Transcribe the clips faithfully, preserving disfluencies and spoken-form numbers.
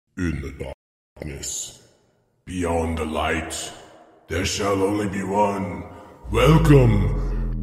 In the darkness, beyond the light, there shall only be one. Welcome,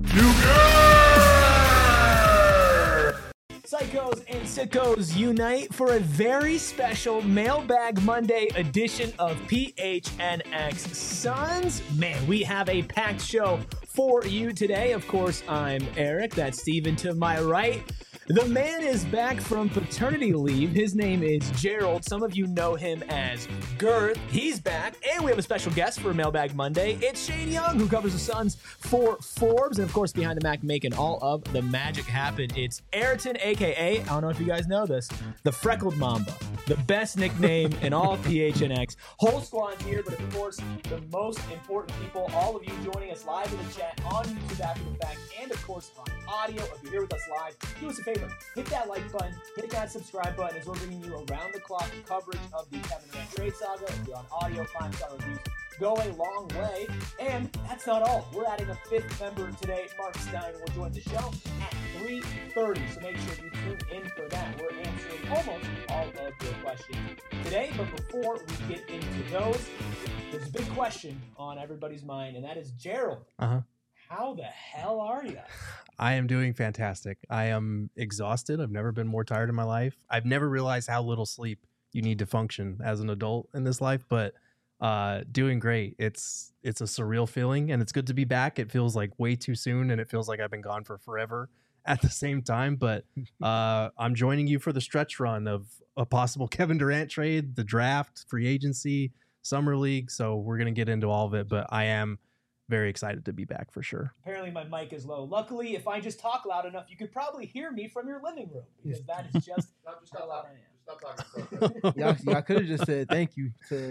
Nuker! Psychos and sickos unite for a very special Mailbag Monday edition of P H N X Suns. Man, we have a packed show for you today. Of course, I'm Eric. That's Steven to my right. The man is back from paternity leave. His name is Gerald. Some of you know him as Girth. He's back. And we have a special guest for Mailbag Monday. It's Shane Young, who covers the Suns for Forbes. And, of course, behind the Mac making all of the magic happen, it's Ayrton, a k a, I don't know if you guys know this, the Freckled Mamba. The best nickname in all of P H N X. Whole squad here, but, of course, the most important people, all of you joining us live in the chat on YouTube after the fact, and, of course, on audio. If you're here with us live, do us a favor. Hit that like button, hit that subscribe button as we're bringing you around-the-clock coverage of the Kevin Durant trade saga. If you're on audio, five-star reviews go a long way. And that's not all. We're adding a fifth member today. Mark Stein will join the show at three thirty, so make sure you tune in for that. We're answering almost all of your questions today, but before we get into those, there's a big question on everybody's mind, and that is, Gerald, Uh-huh. how the hell are you? I am doing fantastic. I am exhausted. I've never been more tired in my life. I've never realized how little sleep you need to function as an adult in this life, but uh, doing great. It's it's a surreal feeling, and it's good to be back. It feels like way too soon, and it feels like I've been gone for forever at the same time, but uh, I'm joining you for the stretch run of a possible Kevin Durant trade, the draft, free agency, summer league, so we're going to get into all of it, but I am very excited to be back for sure. Apparently my mic is low. Luckily, if I just talk loud enough, you could probably hear me from your living room, because that is just how loud I am. Stop talking. y'all, y'all could have just said thank you to,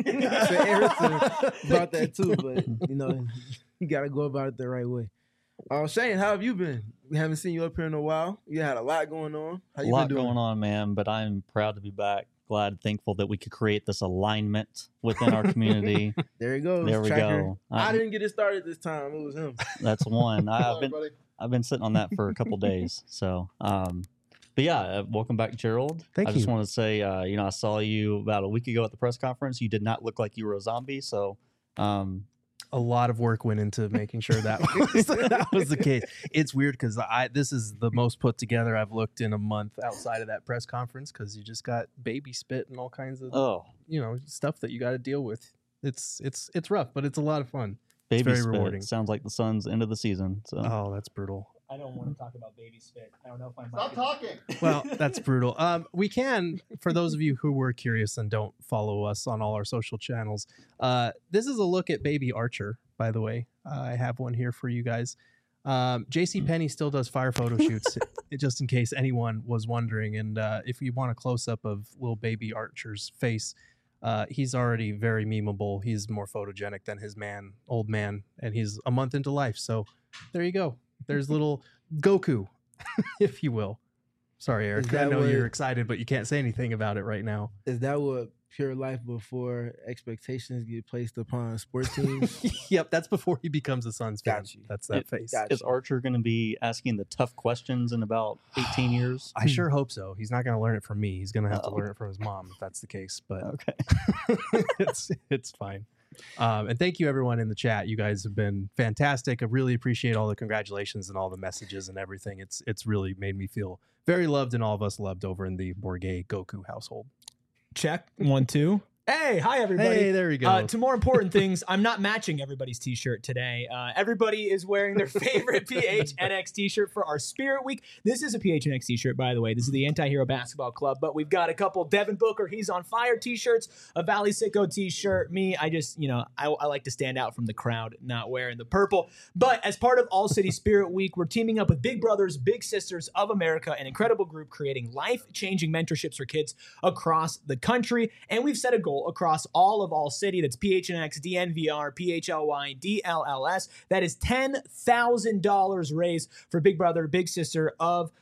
to Ayrton about that too, but you know, you got to go about it the right way. Uh, Shane, how have you been? We haven't seen you up here in a while. You had a lot going on. How A you lot been doing? going on, man, but I'm proud to be back. Glad, thankful that we could create this alignment within our community. There you go. There we Tracker. go. I Um, didn't get it started this time. It was him. That's one. I, I've been buddy. I've been sitting on that for a couple days. So, um, but yeah, uh, welcome back, Gerald. Thank I just you. want to say, uh, you know, I saw you about a week ago at the press conference. You did not look like you were a zombie. So, um, A lot of work went into making sure that was, that was the case. It's weird because I this is the most put together I've looked in a month outside of that press conference, because you just got baby spit and all kinds of oh, you know stuff that you got to deal with. It's it's it's rough, but it's a lot of fun. baby very spit. rewarding. Sounds like the Suns' end of the season. So, Oh, that's brutal. I don't want to talk about baby spit. I don't know if my Stop mic talking. Well, that's brutal. Um, we can, for those of you who were curious and don't follow us on all our social channels, uh, this is a look at Baby Archer, by the way. Uh, I have one here for you guys. Um, JCPenney still does fire photo shoots, just in case anyone was wondering. And uh, if you want a close-up of little Baby Archer's face, uh, he's already very memeable. He's more photogenic than his man, old man, and he's a month into life. So there you go. There's little Goku, if you will. Sorry, Eric. Is I that know what- you're excited, but you can't say anything about it right now. Is that what pure life before expectations get placed upon sports teams? Yep, that's before he becomes a Suns fan. Got you. That's that It- face. got is Archer going to be asking the tough questions in about eighteen years? I sure hope so. He's not going to learn it from me. He's going to have to Oh. learn it from his mom, if that's the case. But Okay. it's it's fine. Um, and thank you, everyone in the chat. You guys have been fantastic. I really appreciate all the congratulations and all the messages and everything. It's it's really made me feel very loved, and all of us loved over in the Borgay Goku household. Check. One, two. Hey, hi, everybody. Hey, there we go. Uh, to more important things, I'm not matching everybody's t-shirt today. Uh, everybody is wearing their favorite P H N X t-shirt for our Spirit Week. This is a P H N X t-shirt, by the way. This is the Anti-Hero Basketball Club, but we've got a couple Devin Booker, He's on Fire t-shirts, a Valley Sicko t-shirt. Me, I just, you know, I, I like to stand out from the crowd, not wearing the purple. But as part of All City Spirit Week, we're teaming up with Big Brothers Big Sisters of America, an incredible group creating life-changing mentorships for kids across the country. And we've set a goal across all of All City. That's P H N X, D N V R, P H L Y, D L L S. That is ten thousand dollars raised for Big Brother, Big Sister of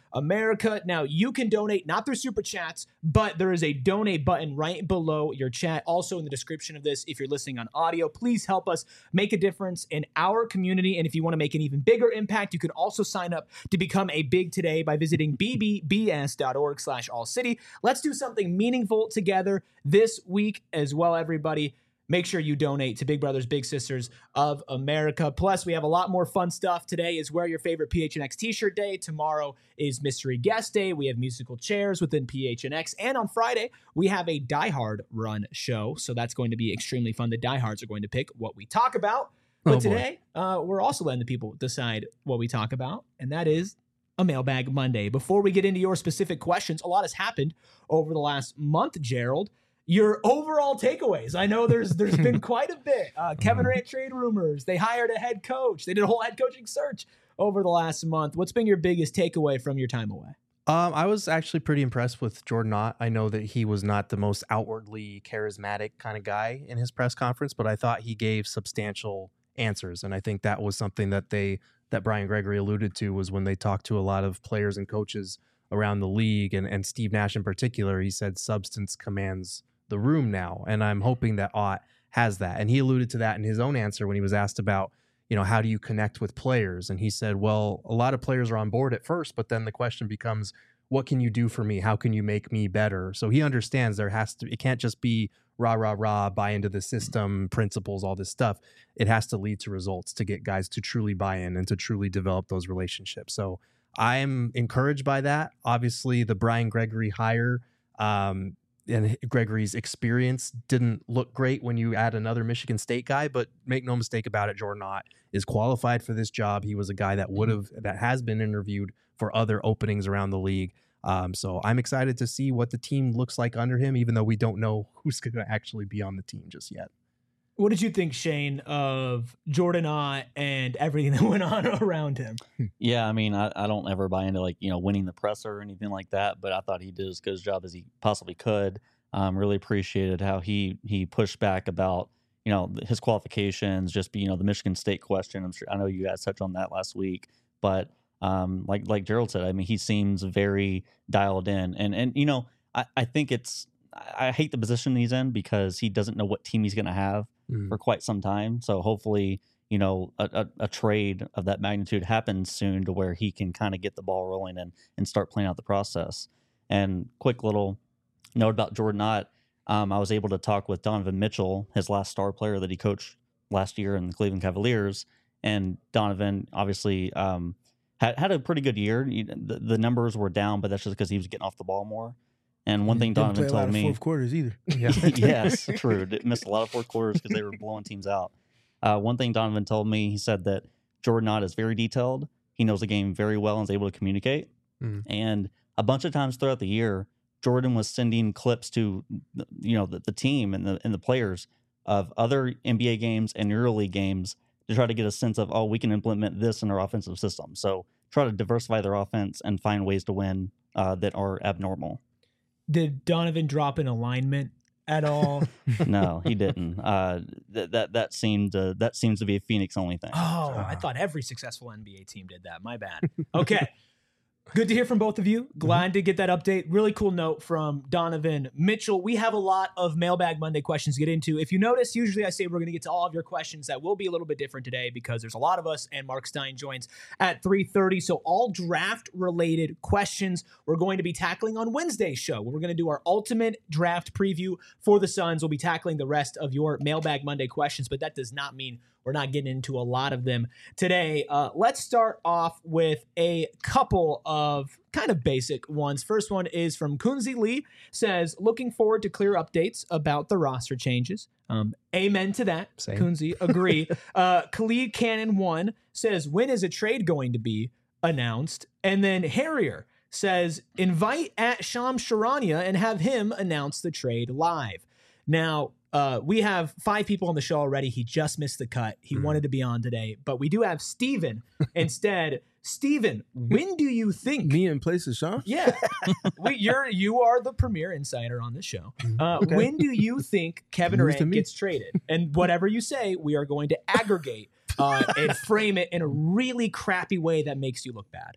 America. Now, you can donate not through Super Chats, but there is a donate button right below your chat. Also in the description of this, if you're listening on audio, please help us make a difference in our community. And if you want to make an even bigger impact, you can also sign up to become a Big Today by visiting b b b s dot org slash all city. Let's do something meaningful together this week as well, everybody. Make sure you donate to Big Brothers Big Sisters of America. Plus, we have a lot more fun stuff. Today is Wear Your Favorite P H N X T-shirt day. Tomorrow is Mystery Guest Day. We have musical chairs within P H N X. And on Friday, we have a Die Hard run show. So that's going to be extremely fun. The diehards are going to pick what we talk about. But Oh, boy. today, uh, we're also letting the people decide what we talk about. And that is a Mailbag Monday. Before we get into your specific questions, a lot has happened over the last month, Gerald. Your overall takeaways. I know there's there's been quite a bit. Uh, Kevin Durant trade rumors. They hired a head coach. They did a whole head coaching search over the last month. What's been your biggest takeaway from your time away? Um, I was actually pretty impressed with Jordan Ott. I know that he was not the most outwardly charismatic kind of guy in his press conference, but I thought he gave substantial answers. And I think that was something that they that Brian Gregory alluded to was when they talked to a lot of players and coaches around the league, and, and Steve Nash in particular. He said substance commands the room now, and I'm hoping that Ott has that. And he alluded to that in his own answer when he was asked about, you know, how do you connect with players? And he said, well, a lot of players are on board at first, but then the question becomes, what can you do for me? How can you make me better? So he understands there has to, it can't just be rah, rah, rah, buy into the system, principles, all this stuff. It has to lead to results to get guys to truly buy in and to truly develop those relationships. So I'm encouraged by that. Obviously, the Brian Gregory hire, um, and Gregory's experience didn't look great when you add another Michigan State guy, but make no mistake about it, Jordan Ott is qualified for this job. He was a guy that would have, that has been interviewed for other openings around the league. Um, so I'm excited to see what the team looks like under him, even though we don't know who's going to actually be on the team just yet. What did you think, Shane, of Jordan Ott and everything that went on around him? Yeah, I mean, I, I don't ever buy into like, you know, winning the presser or anything like that, but I thought he did as good a job as he possibly could. Um, really appreciated how he he pushed back about, you know, his qualifications, just be, you know, the Michigan State question. I'm sure I know you guys touched on that last week, but um, like like Gerald said, I mean, he seems very dialed in, and and you know, I, I think it's I hate the position he's in because he doesn't know what team he's going to have mm. for quite some time. So hopefully, you know, a, a, a trade of that magnitude happens soon to where he can kind of get the ball rolling and, and start playing out the process. And quick little note about Jordan Ott. Um, I was able to talk with Donovan Mitchell, his last star player that he coached last year in the Cleveland Cavaliers. And Donovan obviously um, had, had a pretty good year. The, the numbers were down, but that's just because he was getting off the ball more. And one thing Donovan play a told lot of me, fourth quarters either. Yeah. yes, true. Did- Missed a lot of fourth quarters because they were blowing teams out. Uh, one thing Donovan told me, he said that Jordan Ott is very detailed. He knows the game very well and is able to communicate. Mm. And a bunch of times throughout the year, Jordan was sending clips to, you know, the, the team and the and the players of other N B A games and EuroLeague games to try to get a sense of, oh, we can implement this in our offensive system. So try to diversify their offense and find ways to win uh, that are abnormal. Did Donovan drop an alignment at all? No, he didn't. Uh, that that that seemed uh, that seems to be a Phoenix only thing. Oh, I thought every successful N B A team did that. My bad. Okay. Good to hear from both of you. Glad to get that update. Really cool note from Donovan Mitchell. We have a lot of Mailbag Monday questions to get into. If you notice, usually I say we're going to get to all of your questions. That will be a little bit different today because there's a lot of us, and Mark Stein joins at three thirty. So all draft-related questions we're going to be tackling on Wednesday's show. We're going to do our ultimate draft preview for the Suns. We'll be tackling the rest of your Mailbag Monday questions, but that does not mean we're not getting into a lot of them today. Uh, let's start off with a couple of kind of basic ones. First one is from Kunzi Lee, says, looking forward to clear updates about the roster changes. Um, amen to that. Same. Kunzi, agree. uh, Khalid Cannon one says, when is a trade going to be announced? And then Harrier says, invite at Sham Sharania and have him announce the trade live. Now, Uh, we have five people on the show already. He just missed the cut. He mm. wanted to be on today, but we do have Steven instead. Steven, when do you think me in place of Sean? Yeah, we, you're you are the premier insider on this show. Uh, Okay. When do you think Kevin News to Durant me. gets traded? And whatever you say, we are going to aggregate uh, and frame it in a really crappy way that makes you look bad.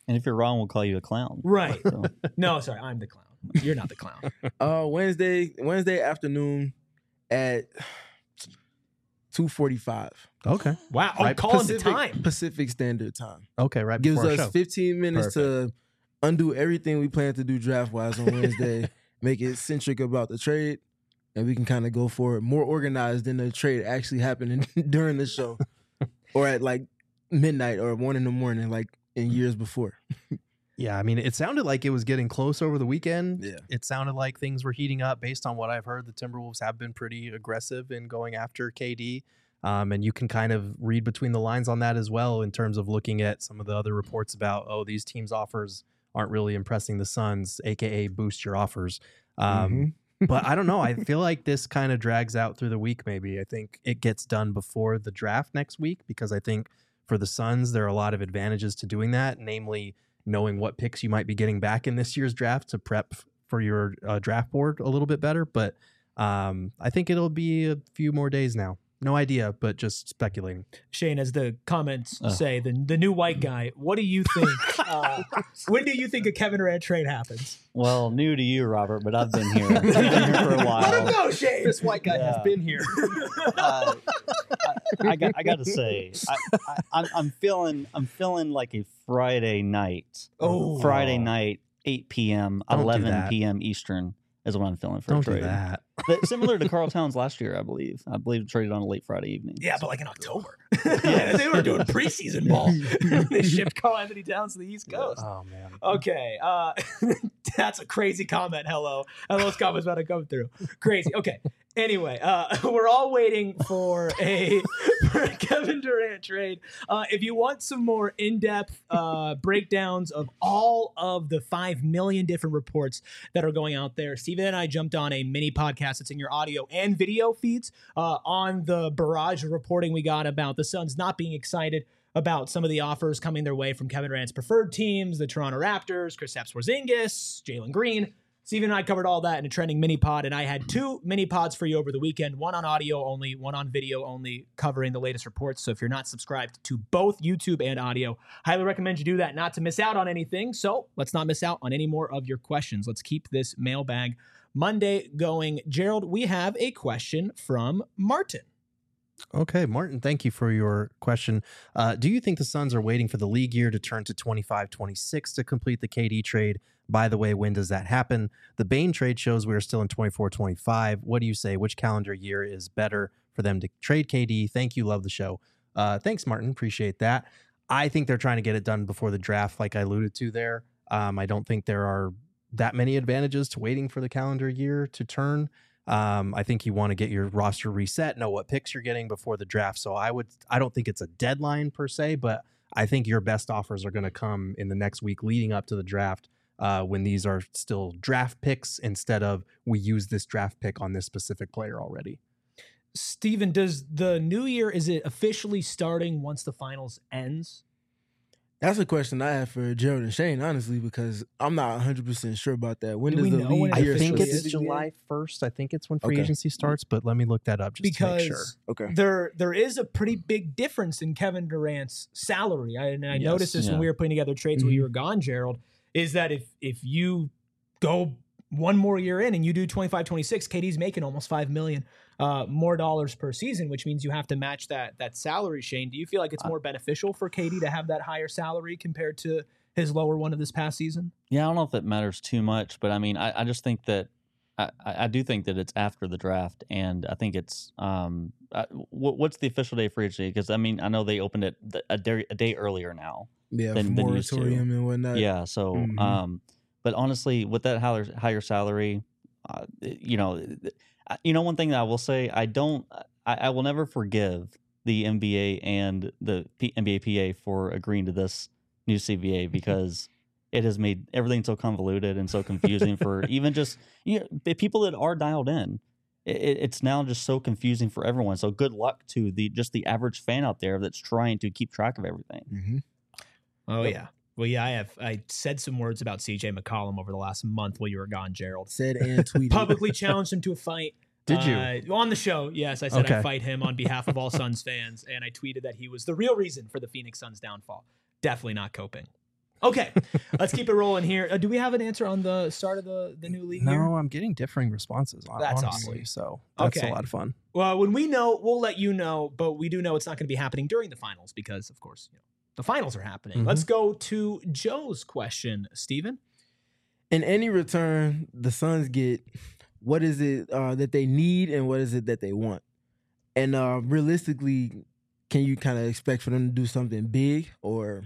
And if you're wrong, we'll call you a clown. Right. So, No, sorry, I'm the clown. You're not the clown. Uh, Wednesday, Wednesday afternoon at two forty-five. Okay. Wow. I'm Right, calling the Pacific, time. Pacific Standard Time. Okay. Right Gives before our us show. fifteen minutes to undo everything we plan to do draft wise on Wednesday. Make it centric about the trade, and we can kind of go for it more organized than the trade actually happening during the show, or at like midnight or one in the morning, like in years before. Yeah, I mean, it sounded like it was getting close over the weekend. Yeah. It sounded like things were heating up based on what I've heard. The Timberwolves have been pretty aggressive in going after K D. Um, and you can kind of read between the lines on that as well in terms of looking at some of the other reports about, oh, these teams' offers aren't really impressing the Suns, a k a boost your offers. Um, but I don't know. I feel like this kind of drags out through the week maybe. I think it gets done before the draft next week because I think for the Suns, there are a lot of advantages to doing that, namely knowing what picks you might be getting back in this year's draft to prep for your uh, draft board a little bit better. But um, I think it'll be a few more days now. No idea, but just speculating. Shane, as the comments Ugh. say, the the new white guy. What do you think? uh, when do you think a Kevin Durant trade happens? well, new to you, Robert, but I've been here. I've been here for a Let him while. go, Shane. This white guy Yeah. has been here. Uh, I, I got. I got to say, I, I, I'm, I'm feeling. I'm feeling like a Friday night. Oh. Friday night, eight p.m., Don't do eleven that. p.m. Eastern is what I'm feeling for Don't a trade. do that. But similar to Carl Towns last year, I believe. I believe traded on a late Friday evening. Yeah, but like in October. They were doing preseason ball. They shipped Carl Anthony Towns to the East Coast. Oh, man. Okay. Uh, that's a crazy comment. Hello. And those comments about to come through. Crazy. Okay. Anyway, uh, we're all waiting for a, for a Kevin Durant trade. Uh, if you want some more in-depth uh, breakdowns of all of the five million different reports that are going out there, Steven and I jumped on a mini podcast that's in your audio and video feeds uh, on the barrage of reporting we got about the Suns not being excited about some of the offers coming their way from Kevin Durant's preferred teams, the Toronto Raptors, Kristaps Porzingis, Jalen Green. Steven and I covered all that in a trending mini pod, and I had two mini pods for you over the weekend, one on audio only, one on video only, covering the latest reports. So if you're not subscribed to both YouTube and audio, highly recommend you do that not to miss out on anything. So let's not miss out on any more of your questions. Let's keep this mailbag Monday going. Gerald, we have a question from Martin. Okay, Martin, thank you for your question. Uh, do you think the Suns are waiting for the league year to turn to twenty-five twenty-six to complete the K D trade? By the way, when does that happen? The Bain trade shows we are still in twenty-four twenty-five. What do you say? Which calendar year is better for them to trade K D? Thank you. Love the show. Uh, thanks, Martin. Appreciate that. I think they're trying to get it done before the draft, like I alluded to there. Um, I don't think there are that many advantages to waiting for the calendar year to turn. Um, I think you want to get your roster reset, know what picks you're getting before the draft. So I would, I don't think it's a deadline per se, but I think your best offers are going to come in the next week leading up to the draft uh, when these are still draft picks instead of we use this draft pick on this specific player already. Steven, does the new year, is it officially starting once the finals ends? That's a question I have for Gerald and Shane, honestly, because I'm not one hundred percent sure about that. When Do does we the know when league it year I think officially it's is? July first. I think it's when free Okay. agency starts, but let me look that up just to Because make sure. Okay. there there is a pretty big difference in Kevin Durant's salary. I, and I Yes, noticed this when yeah. we were putting together trades while Mhm. you were gone, Gerald, is that if if you go one more year in and you do twenty-five twenty-six, K D's making almost five million uh, more dollars per season, which means you have to match that that salary, Shane. Do you feel like it's more beneficial for K D to have that higher salary compared to his lower one of this past season? Yeah, I don't know if it matters too much, but I mean, I, I just think that I, I do think that it's after the draft, and I think it's um, I, what, what's the official day for each day? Because I mean, I know they opened it th- a day a day earlier now. Yeah, Than- than used to. moratorium and whatnot. Yeah, so Mhm. um, but honestly, with that higher higher salary, uh, you know, I- you know, one thing that I will say, I don't, I, I will never forgive the N B A and the P- N B A P A for agreeing to this new C B A because it has made everything so convoluted and so confusing for even just you know the people that are dialed in. It, it's now just so confusing for everyone. So good luck to the just the average fan out there that's trying to keep track of everything. Mm-hmm. Oh yeah. Well, yeah, I have. I said some words about C J McCollum over the last month while you were gone, Gerald. Said and tweeted. Publicly challenged him to a fight. Did you? Uh, on the show, yes. I said Okay. I'd fight him on behalf of all Suns fans, and I tweeted that he was the real reason for the Phoenix Suns' downfall. Definitely not coping. Okay, let's keep it rolling here. Uh, do we have an answer on the start of the, the new league No, here? I'm getting differing responses. hon- That's honestly, awesome. So that's Okay. a lot of fun. Well, when we know, we'll let you know, but we do know it's not going to be happening during the finals because, of course, you know, the finals are happening. Mhm. Let's go to Joe's question, Steven. In any return, the Suns get what is it uh, that they need and what is it that they want? And uh, realistically, can you kind of expect for them to do something big, or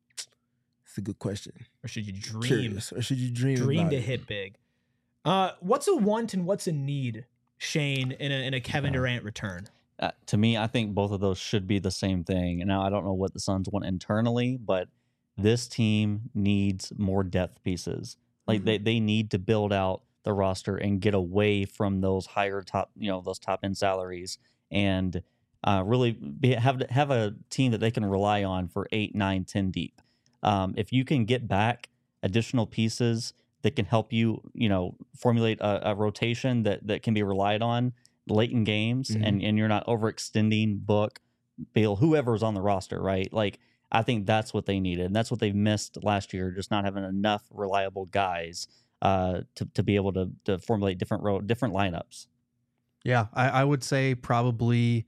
it's a good question. Or should you dream? Curious. Or should you dream? Dream about to it? hit big. Uh, what's a want and what's a need, Shane, in a, in a Kevin Durant return? Uh, to me, I think both of those should be the same thing. And now I don't know what the Suns want internally, but this team needs more depth pieces. Like Mhm. they, they need to build out the roster and get away from those higher top, you know, those top end salaries, and uh, really be, have have a team that they can rely on for eight, nine, ten deep. Um, if you can get back additional pieces that can help you, you know, formulate a, a rotation that that can be relied on late in games, Mhm. and and you're not overextending Book, Bill, whoever's on the roster, right? Like I think that's what they needed, and that's what they've missed last year, just not having enough reliable guys uh, to to be able to to formulate different ro- different lineups. Yeah, I, I would say probably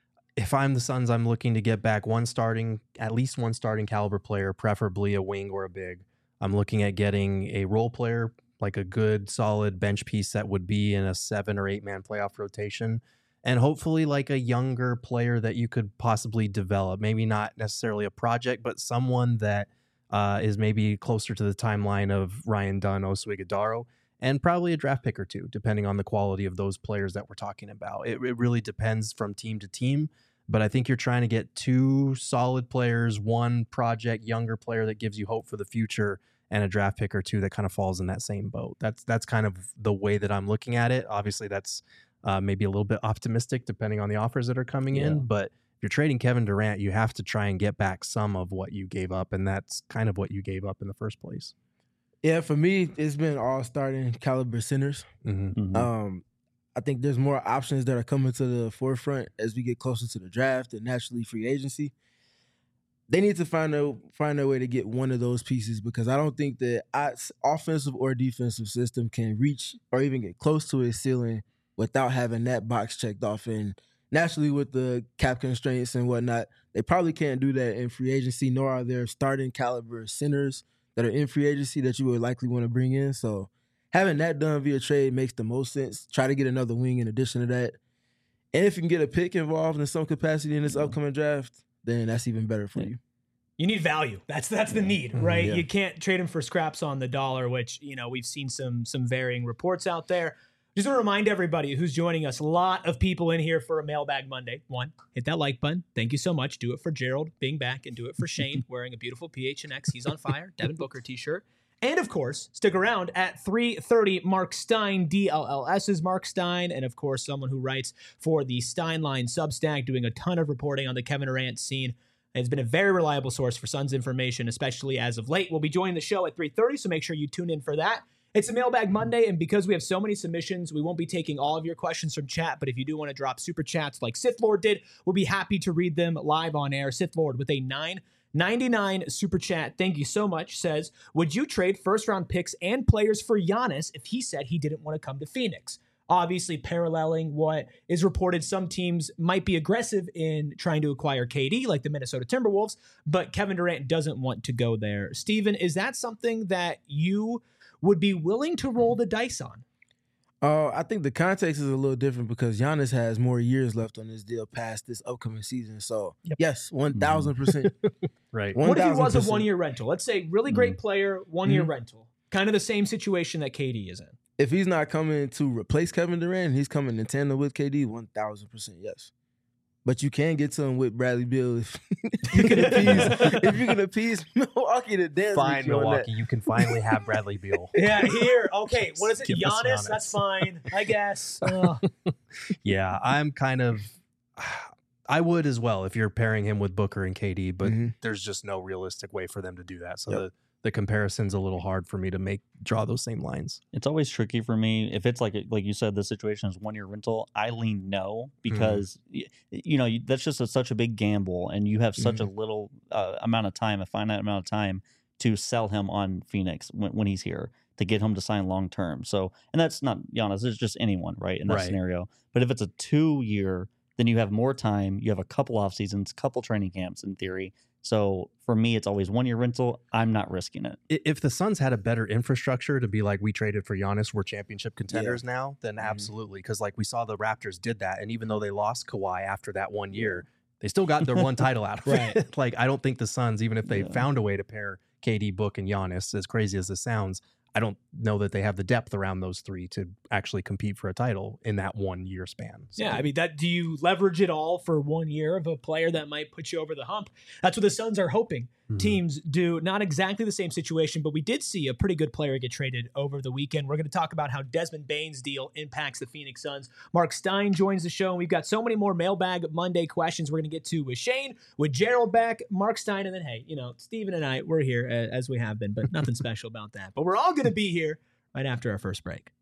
if I'm the Suns, I'm looking to get back one starting, at least one starting caliber player, preferably a wing or a big. I'm looking at getting a role player, like a good, solid bench piece that would be in a seven or eight man playoff rotation. And hopefully like a younger player that you could possibly develop. Maybe not necessarily a project, but someone that uh, is maybe closer to the timeline of Ryan Dunn, Oso Ighodaro, and probably a draft pick or two, depending on the quality of those players that we're talking about. It, it really depends from team to team, but I think you're trying to get two solid players, one project younger player that gives you hope for the future, and a draft pick or two that kind of falls in that same boat. That's that's kind of the way that I'm looking at it. Obviously, that's uh, maybe a little bit optimistic depending on the offers that are coming Yeah. in, but if you're trading Kevin Durant, you have to try and get back some of what you gave up, and that's kind of what you gave up in the first place. Yeah, for me, it's been all starting caliber centers. Mm-hmm. Mhm. Um, I think there's more options that are coming to the forefront as we get closer to the draft and naturally free agency. They need to find a find a way to get one of those pieces, because I don't think that I, offensive or defensive system can reach or even get close to its ceiling without having that box checked off. And naturally, with the cap constraints and whatnot, they probably can't do that in free agency, nor are there starting caliber centers that are in free agency that you would likely want to bring in. So having that done via trade makes the most sense. Try to get another wing in addition to that. And if you can get a pick involved in some capacity in this upcoming draft, then that's even better for Yeah. you. You need value. That's that's the need, right? Yeah. You can't trade him for scraps on the dollar, which, you know, we've seen some some varying reports out there. Just want to remind everybody who's joining us, a lot of people in here for a Mailbag Monday. One, hit that like button. Thank you so much. Do it for Gerald being back, and do it for Shane wearing a beautiful P H N X. He's on fire. Devin Booker t-shirt. And of course, stick around at three thirty. Mark Stein, D L L S's Mark Stein, and of course, someone who writes for the Steinline Substack, doing a ton of reporting on the Kevin Durant scene. It's been a very reliable source for Suns information, especially as of late. We'll be joining the show at three thirty, so make sure you tune in for that. It's a Mailbag Monday, and because we have so many submissions, we won't be taking all of your questions from chat, but if you do want to drop super chats like Sith Lord did, we'll be happy to read them live on air. Sith Lord with a nine ninety-nine super chat, thank you so much, says, would you trade first-round picks and players for Giannis if he said he didn't want to come to Phoenix? Obviously, paralleling what is reported, some teams might be aggressive in trying to acquire K D, like the Minnesota Timberwolves, but Kevin Durant doesn't want to go there. Steven, is that something that you would be willing to roll the dice on? Uh, I think the context is a little different because Giannis has more years left on this deal past this upcoming season. So, Yep. yes, one thousand percent. Right. What if he was a one thousand percent. one-year rental? Let's say really great player, one-year Mhm. rental. Kind of the same situation that K D is in. If he's not coming to replace Kevin Durant, he's coming in tandem with K D, one thousand percent yes. But you can get to him with Bradley Beal if you can appease, if you can appease Milwaukee to dance Fine, with you on Milwaukee. You can finally have Bradley Beal. Yeah, here. Okay, what is it? Give us Giannis? Giannis. That's fine, I guess. Ugh. Yeah, I'm kind of. I would as well if you're pairing him with Booker and K D, but Mhm. there's just no realistic way for them to do that. So Yep. the, the comparison's a little hard for me to make draw those same lines. It's always tricky for me if it's like like you said, the situation is one year rental. I lean no because y you know you, that's just a, such a big gamble, and you have such a little uh, amount of time, a finite amount of time to sell him on Phoenix when, when he's here, to get him to sign long term. So, and that's not Giannis, it's just anyone, right, in that Right. scenario. But if it's a two year, then you have more time. You have a couple off seasons, couple training camps in theory. So for me, it's always one year rental. I'm not risking it. I- If the Suns had a better infrastructure to be like, we traded for Giannis, we're championship contenders now, then absolutely. Because like we saw the Raptors did that. And even though they lost Kawhi after that one year, they still got their one title out of Right. it. Like, I don't think the Suns, even if they Yeah. found a way to pair K D, Book, and Giannis, as crazy as this sounds, I don't know that they have the depth around those three to actually compete for a title in that one year span. So, Yeah, I mean, that do you leverage it all for one year of a player that might put you over the hump? That's what the Suns are hoping mhm. teams do. Not exactly the same situation, but we did see a pretty good player get traded over the weekend. We're going to talk about how Desmond Bane's deal impacts the Phoenix Suns. Mark Stein joins the show, and we've got so many more Mailbag Monday questions we're going to get to with Shane, with Gerald back, Mark Stein, and then, hey, you know, Steven and I, we're here uh, as we have been, but nothing special about that. But we're all going to be here right after our first break.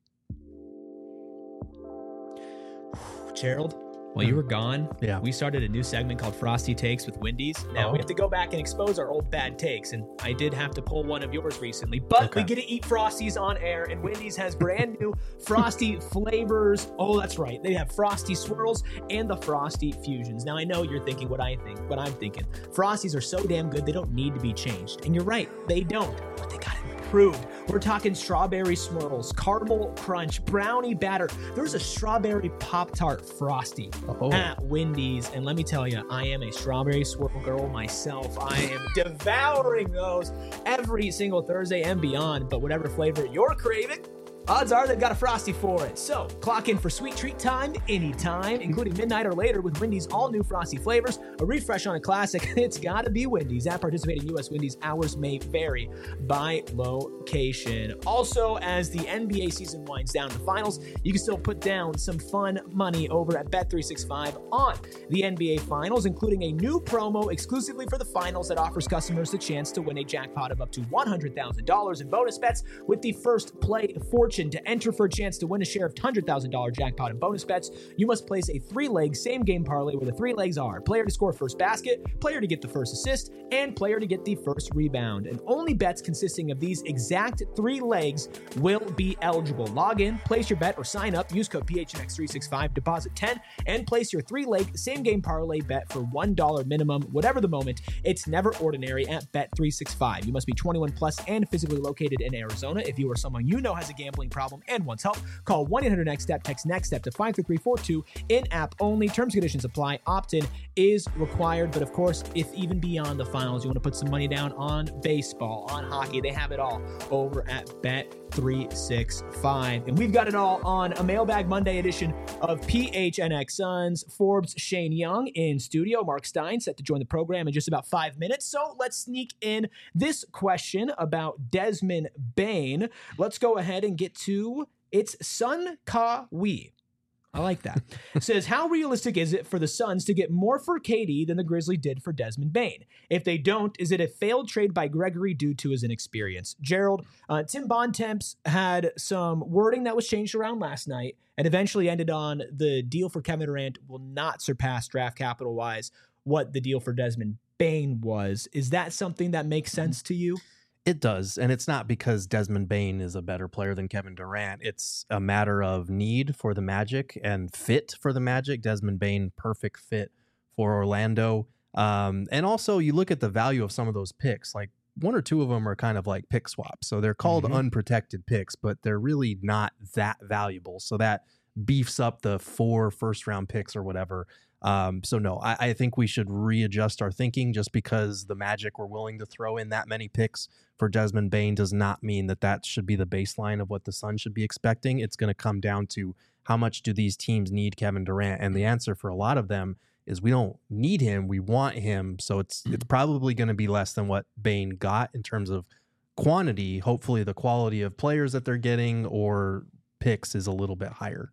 Gerald, while you were gone, Yeah. we started a new segment called Frosty Takes with Wendy's. Now, Oh. we have to go back and expose our old bad takes, and I did have to pull one of yours recently, but Okay. we get to eat Frosties on air, and Wendy's has brand new Frosty flavors. Oh, that's right. They have Frosty Swirls and the Frosty Fusions. Now, I know you're thinking what I think, what I'm thinking. Frosties are so damn good, they don't need to be changed. And you're right, they don't, but they got improved. We're talking strawberry swirls, caramel crunch, brownie batter. There's a strawberry Pop-Tart Frosty Oh. at Wendy's. And let me tell you, I am a strawberry swirl girl myself. I am devouring those every single Thursday and beyond. But whatever flavor you're craving, odds are they've got a Frosty for it. So clock in for sweet treat time anytime, including midnight or later with Wendy's all-new Frosty flavors. A refresh on a classic, it's gotta be Wendy's. At participating U S Wendy's, hours may vary by location. Also, as the N B A season winds down to the finals, you can still put down some fun money over at Bet three sixty-five on the N B A finals, including a new promo exclusively for the finals that offers customers the chance to win a jackpot of up to one hundred thousand dollars in bonus bets with the first play fortune. To enter for a chance to win a share of one hundred thousand dollars jackpot in bonus bets, you must place a three-leg same-game parlay where the three legs are player to score first basket, player to get the first assist, and player to get the first rebound. And only bets consisting of these exact three legs will be eligible. Log in, place your bet, or sign up. Use code P H N X three sixty-five, deposit ten, and place your three-leg same-game parlay bet for one dollar minimum, whatever the moment. It's never ordinary at Bet three sixty-five. You must be twenty-one plus and physically located in Arizona. If you or someone you know has a gambling problem and wants help, call one eight hundred next step, text NEXTSTEP to five three three four two. In-app only. Terms and conditions apply. Opt-in is required. But of course, if even beyond the finals, you want to put some money down on baseball, on hockey, they have it all over at Bet three sixty-five. And we've got it all on a Mailbag Monday edition of P H N X Suns. Forbes Shane Young in studio. Mark Stein set to join the program in just about five minutes. So let's sneak in this question about Desmond Bane. Let's go ahead and get to it's Sun Ka Wee. I like that. Says, how realistic is it for the Suns to get more for K D than the Grizzlies did for Desmond Bane? If they don't, is it a failed trade by Gregory due to his inexperience? Gerald, uh, Tim Bontemps had some wording that was changed around last night and eventually ended on the deal for Kevin Durant will not surpass draft capital-wise what the deal for Desmond Bane was. Is that something that makes sense to you? It does. And it's not because Desmond Bane is a better player than Kevin Durant. It's a matter of need for the Magic and fit for the Magic. Desmond Bane, perfect fit for Orlando. Um, and also, you look at the value of some of those picks. Like one or two of them are kind of like pick swaps. So they're called Mhm. unprotected picks, but they're really not that valuable. So that beefs up the four first round picks or whatever. Um, so no, I, I think we should readjust our thinking. Just because the Magic were willing to throw in that many picks for Desmond Bane does not mean that that should be the baseline of what the Suns should be expecting. It's going to come down to how much do these teams need Kevin Durant? And the answer for a lot of them is we don't need him. We want him. So it's, it's probably going to be less than what Bane got in terms of quantity. Hopefully the quality of players that they're getting or picks is a little bit higher.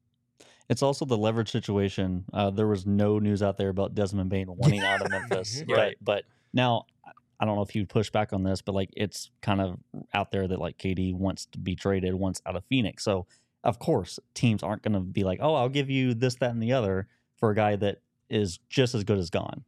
It's also the leverage situation. Uh, there was no news out there about Desmond Bane wanting out of Memphis. Right. But, but now, I don't know if you'd push back on this, but like it's kind of out there that like K D wants to be traded once out of Phoenix. So, of course, teams aren't going to be like, oh, I'll give you this, that, and the other for a guy that is just as good as gone.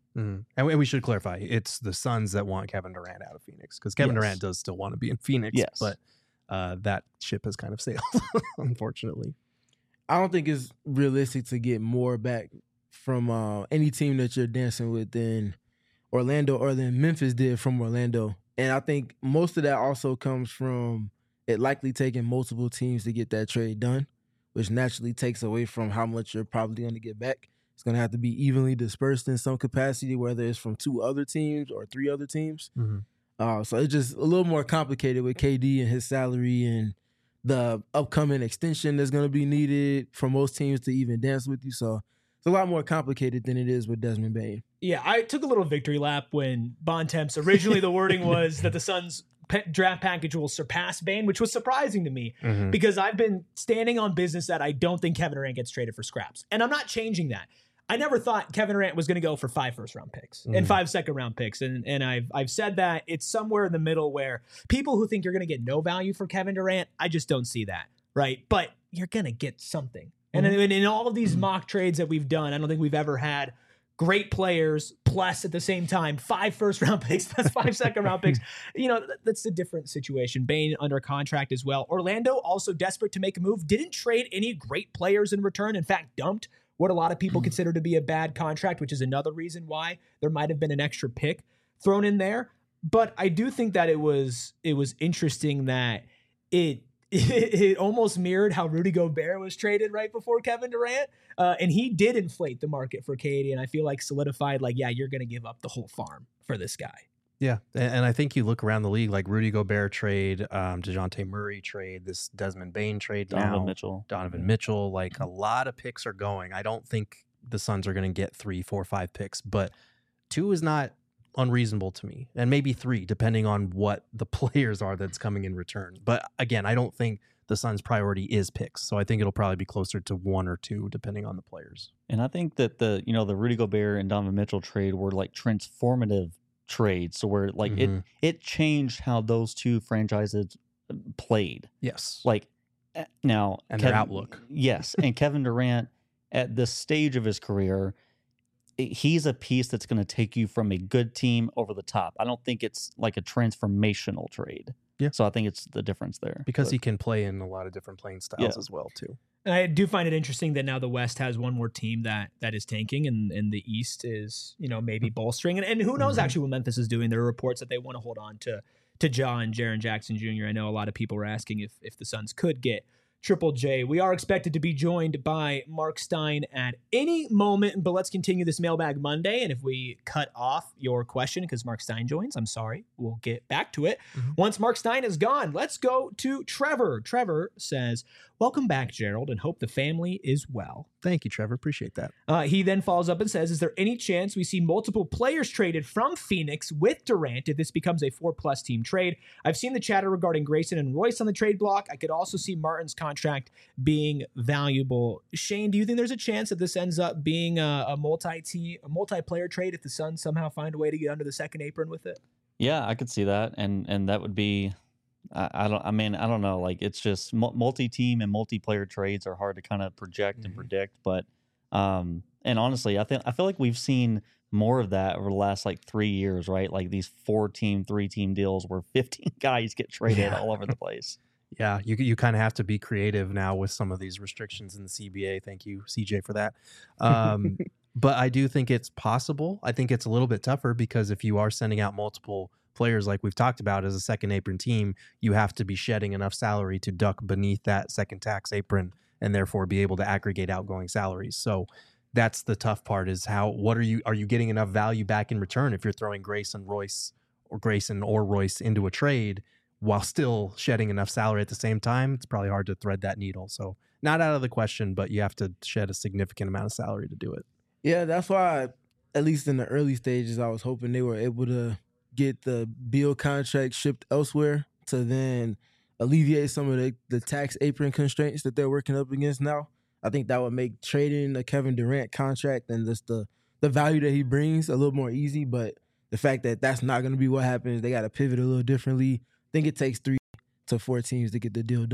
Mm. And we, we should clarify, it's the Suns that want Kevin Durant out of Phoenix, because Kevin Yes. Durant does still want to be in Phoenix, Yes. but uh, that ship has kind of sailed, unfortunately. I don't think it's realistic to get more back from uh, any team that you're dancing with than Orlando or than Memphis did from Orlando. And I think most of that also comes from it likely taking multiple teams to get that trade done, which naturally takes away from how much you're probably going to get back. It's going to have to be evenly dispersed in some capacity, whether it's from two other teams or three other teams. Mm-hmm. Uh, so it's just a little more complicated with K D and his salary and the upcoming extension that's going to be needed for most teams to even dance with you. So it's a lot more complicated than it is with Desmond Bane. Yeah, I took a little victory lap when Bontemps, originally the wording was that the Suns' pe- draft package will surpass Bane, which was surprising to me Mm-hmm. because I've been standing on business that I don't think Kevin Durant gets traded for scraps. And I'm not changing that. I never thought Kevin Durant was going to go for five first round picks Mhm. and five second round picks. And and I've I've said that it's somewhere in the middle where people who think you're going to get no value for Kevin Durant, I just don't see that. Right. But you're going to get something. And in, in all of these mock trades that we've done, I don't think we've ever had great players plus at the same time five first round picks plus five second round picks. You know, th- that's a different situation. Bane under contract as well. Orlando also desperate to make a move, didn't trade any great players in return. In fact, dumped what a lot of people consider to be a bad contract, which is another reason why there might have been an extra pick thrown in there. But I do think that it was it was interesting that it it, it almost mirrored how Rudy Gobert was traded right before Kevin Durant. Uh, and he did inflate the market for K D, and I feel like solidified, like, yeah, you're going to give up the whole farm for this guy. Yeah, and, and I think you look around the league, like Rudy Gobert trade, um, DeJounte Murray trade, this Desmond Bane trade, Donovan now, Mitchell. Donovan Mitchell, like a lot of picks are going. I don't think the Suns are going to get three, four, five picks, but two is not unreasonable to me, and maybe three, depending on what the players are that's coming in return. But again, I don't think the Suns' priority is picks, so I think it'll probably be closer to one or two, depending on the players. And I think that the you know the Rudy Gobert and Donovan Mitchell trade were like transformative trades, so where like Mhm. it it changed how those two franchises played. Yes, Like eh, now And their outlook. Yes, and Kevin Durant at this stage of his career, i- he's a piece that's going to take you from a good team over the top. I don't think it's like a transformational trade. Yeah. So I think it's the difference there. because But- he can play in a lot of different playing styles Yeah. as well too. And I do find it interesting that now the West has one more team that that is tanking, and, and the East is, you know, maybe bolstering. And, and who knows Mhm. actually what Memphis is doing. There are reports that they want to hold on to to Ja and Jaren Jackson Junior I know a lot of people were asking if if the Suns could get Triple J. We are expected to be joined by Mark Stein at any moment, but let's continue this Mailbag Monday. And if we cut off your question because Mark Stein joins, I'm sorry, we'll get back to it. Mhm. Once Mark Stein is gone, let's go to Trevor. Trevor says, welcome back, Gerald, and hope the family is well. Thank you, Trevor. Appreciate that. Uh, he then follows up and says, is there any chance we see multiple players traded from Phoenix with Durant if this becomes a four-plus team trade? I've seen the chatter regarding Grayson and Royce on the trade block. I could also see Martin's contract being valuable. Shane, do you think there's a chance that this ends up being a, a multi-team, a multiplayer trade if the Suns somehow find a way to get under the second apron with it? Yeah, I could see that, and and that would be, I, I don't, I mean, I don't know, like it's just mu- multi-team and multiplayer trades are hard to kind of project and Mhm. predict, but, um, and honestly, I think I feel like we've seen more of that over the last like three years, right? Like these four-team, three-team deals where fifteen guys get traded Yeah. all over the place. Yeah, you you kind of have to be creative now with some of these restrictions in the C B A. Thank you, C J, for that. Um, but I do think it's possible. I think it's a little bit tougher because if you are sending out multiple players like we've talked about as a second apron team, you have to be shedding enough salary to duck beneath that second tax apron and therefore be able to aggregate outgoing salaries. So that's the tough part is how what are you are you getting enough value back in return if you're throwing Grayson Royce or Grayson or Royce into a trade while still shedding enough salary at the same time? It's probably hard to thread that needle. So not out of the question, but you have to shed a significant amount of salary to do it. Yeah, that's why, at least in the early stages, I was hoping they were able to get the Beal contract shipped elsewhere to then alleviate some of the, the tax apron constraints that they're working up against now. I think that would make trading the Kevin Durant contract and just the, the value that he brings a little more easy. But the fact that that's not going to be what happens, they got to pivot a little differently. I think it takes three to four teams to get the deal done.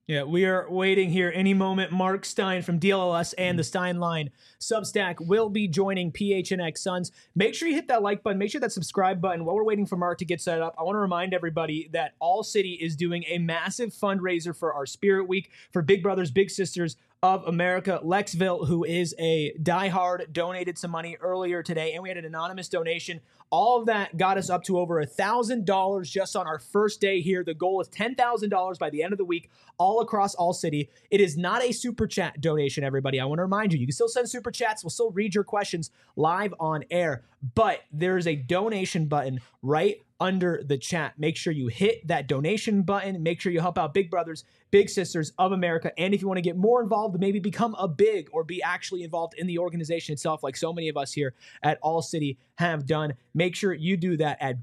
Yeah, we are waiting here any moment. Mark Stein from D L L S and the Stein Line Substack will be joining P H N X Suns. Make sure you hit that like button. Make sure that subscribe button. While we're waiting for Mark to get set up, I want to remind everybody that All City is doing a massive fundraiser for our Spirit Week for Big Brothers Big Sisters of America. Lexville, who is a diehard, donated some money earlier today, and we had an anonymous donation. All of that got us up to over one thousand dollars just on our first day here. The goal is ten thousand dollars by the end of the week, all across All City. It is not a super chat donation, everybody. I want to remind you, you can still send super chats. We'll still read your questions live on air, but there's a donation button right under the chat. Make sure you hit that donation button. Make sure you help out Big Brothers Big Sisters of America. And if you want to get more involved, maybe become a big or be actually involved in the organization itself, like so many of us here at All City have done, make sure you do that at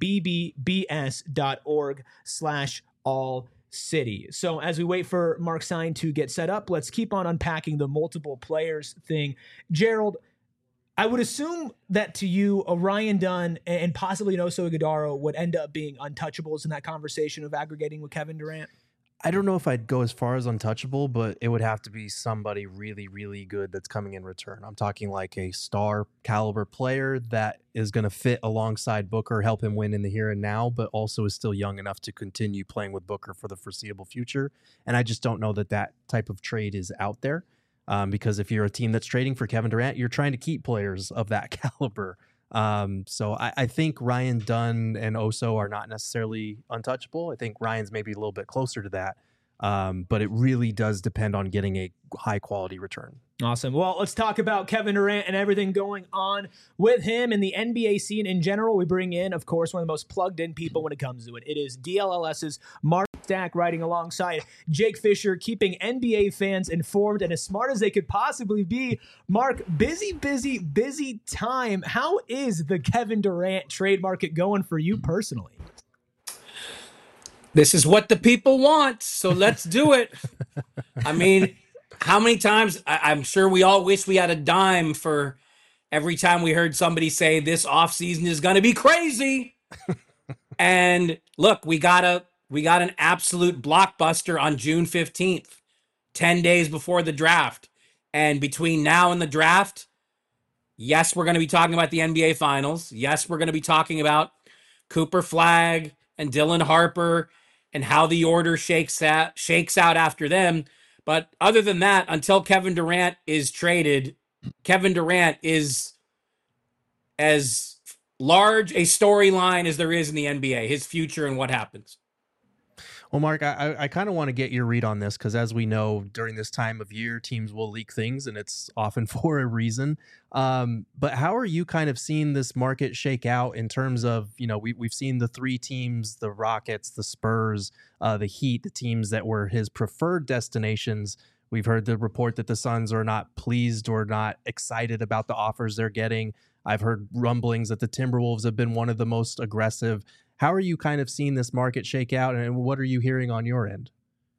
bbbs.org slash all city. So as we wait for Mark Stein to get set up, let's keep on unpacking the multiple players thing. Gerald, I would assume that to you, Orion Dunn and possibly Noso Ighodaro would end up being untouchables in that conversation of aggregating with Kevin Durant. I don't know if I'd go as far as untouchable, but it would have to be somebody really, really good that's coming in return. I'm talking like a star caliber player that is going to fit alongside Booker, help him win in the here and now, but also is still young enough to continue playing with Booker for the foreseeable future. And I just don't know that that type of trade is out there. Um, because if you're a team that's trading for Kevin Durant, you're trying to keep players of that caliber. Um, so I, I think Ryan Dunn and Oso are not necessarily untouchable. I think Ryan's maybe a little bit closer to that. Um, but it really does depend on getting a high quality return. Awesome. Well, let's talk about Kevin Durant and everything going on with him and the N B A scene in general. We bring in, of course, one of the most plugged in people when it comes to it. It is DLLS's Mark Stack riding alongside Jake Fisher, keeping N B A fans informed and as smart as they could possibly be. Mark, busy, busy, busy time. How is the Kevin Durant trade market going for you personally? This is what the people want, so let's do it. I mean, how many times, I, I'm sure we all wish we had a dime for every time we heard somebody say this offseason is going to be crazy. And look, we got a we got an absolute blockbuster on June fifteenth, ten days before the draft. And between now and the draft, yes, we're going to be talking about the N B A Finals. Yes, we're going to be talking about Cooper Flagg and Dylan Harper and how the order shakes out, shakes out after them. But other than that, until Kevin Durant is traded, Kevin Durant is as large a storyline as there is in the N B A, his future and what happens. Well, Mark, I, I kind of want to get your read on this because as we know, during this time of year, teams will leak things and it's often for a reason. Um, but how are you kind of seeing this market shake out in terms of, you know, we, we've seen the three teams, the Rockets, the Spurs, uh, the Heat, the teams that were his preferred destinations. We've heard the report that the Suns are not pleased or not excited about the offers they're getting. I've heard rumblings that the Timberwolves have been one of the most aggressive. How are you kind of seeing this market shake out, and what are you hearing on your end?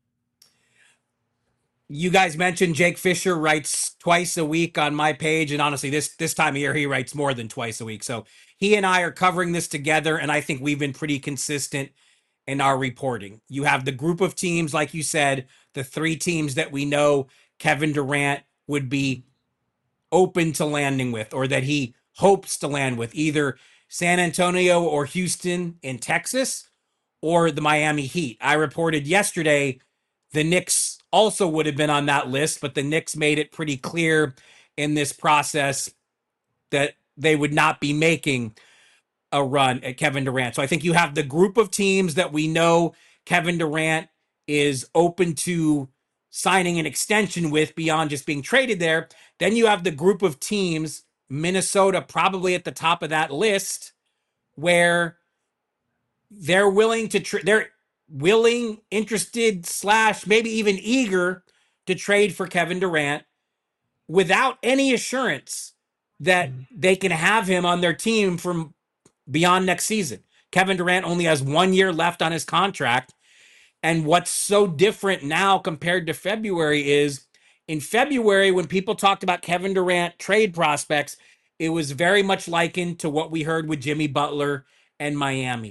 You guys mentioned Jake Fisher writes twice a week on my page, and honestly, this this time of year, he writes more than twice a week. So he and I are covering this together, and I think we've been pretty consistent in our reporting. You have the group of teams, like you said, the three teams that we know Kevin Durant would be open to landing with, or that he hopes to land with, either San Antonio or Houston in Texas, or the Miami Heat. I reported yesterday the Knicks also would have been on that list, but the Knicks made it pretty clear in this process that they would not be making a run at Kevin Durant. So I think you have the group of teams that we know Kevin Durant is open to signing an extension with beyond just being traded there. Then you have the group of teams, Minnesota probably at the top of that list, where they're willing to, tra- they're willing, interested, slash maybe even eager to trade for Kevin Durant without any assurance that they can have him on their team from beyond next season. Kevin Durant only has one year left on his contract. And what's so different now compared to February is, in February, when people talked about Kevin Durant trade prospects, it was very much likened to what we heard with Jimmy Butler and Miami.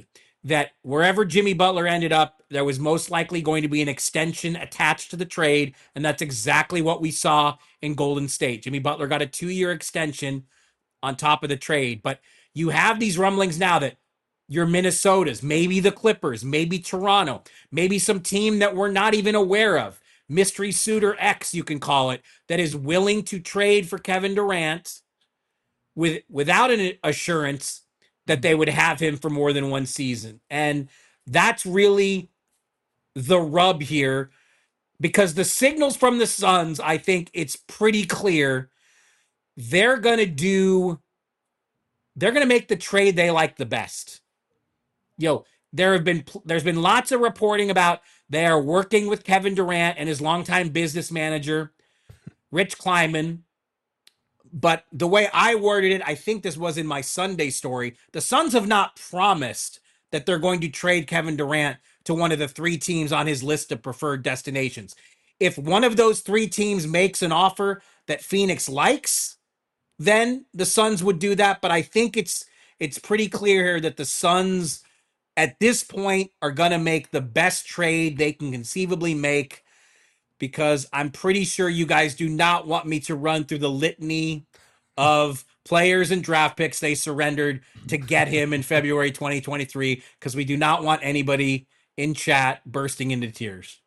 that wherever Jimmy Butler ended up, there was most likely going to be an extension attached to the trade, and that's exactly what we saw in Golden State. Jimmy Butler got a two-year extension on top of the trade, but you have these rumblings now that your Minnesotas, maybe the Clippers, maybe Toronto, maybe some team that we're not even aware of, mystery suitor X, you can call it, that is willing to trade for Kevin Durant with without an assurance that they would have him for more than one season. And that's really the rub here, because the signals from the Suns, I think it's pretty clear they're going to do, they're going to make the trade they like the best. You know, there have been, there's been lots of reporting about they are working with Kevin Durant and his longtime business manager, Rich Kleiman. But the way I worded it, I think this was in my Sunday story, the Suns have not promised that they're going to trade Kevin Durant to one of the three teams on his list of preferred destinations. If one of those three teams makes an offer that Phoenix likes, then the Suns would do that. But I think it's it's pretty clear here that the Suns at this point are going to make the best trade they can conceivably make, because I'm pretty sure you guys do not want me to run through the litany of players and draft picks they surrendered to get him in February twenty twenty-three, because we do not want anybody in chat bursting into tears.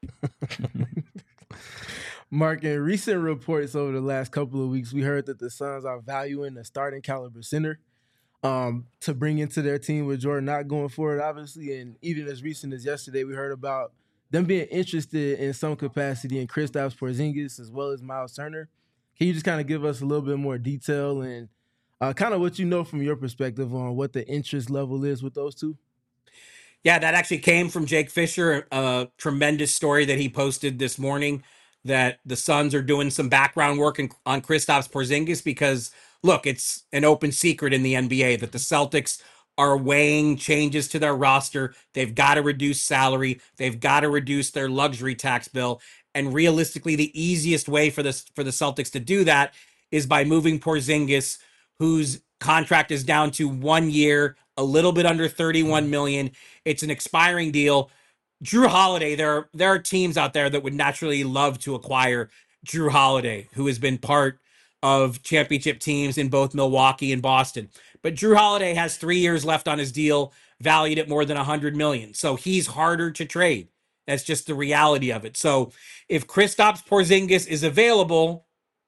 Mark, in recent reports over the last couple of weeks, we heard that the Suns are valuing a starting caliber center um, to bring into their team with Jordan not going forward, obviously. And even as recent as yesterday, we heard about them being interested in some capacity in Kristaps Porzingis as well as Miles Turner. Can you just kind of give us a little bit more detail and uh, kind of what you know from your perspective on what the interest level is with those two? Yeah, that actually came from Jake Fisher, a tremendous story that he posted this morning, that the Suns are doing some background work in, on Kristaps Porzingis, because, look, it's an open secret in the N B A that the Celtics are weighing changes to their roster. They've got to reduce salary. They've got to reduce their luxury tax bill. And realistically, the easiest way for this for the Celtics to do that is by moving Porzingis, whose contract is down to one year, a little bit under thirty-one million dollars. It's an expiring deal. Drew Holiday, there are, there are teams out there that would naturally love to acquire Drew Holiday, who has been part of championship teams in both Milwaukee and Boston. But Drew Holiday has three years left on his deal, valued at more than one hundred million dollars. So he's harder to trade. That's just the reality of it. So if Kristaps Porzingis is available,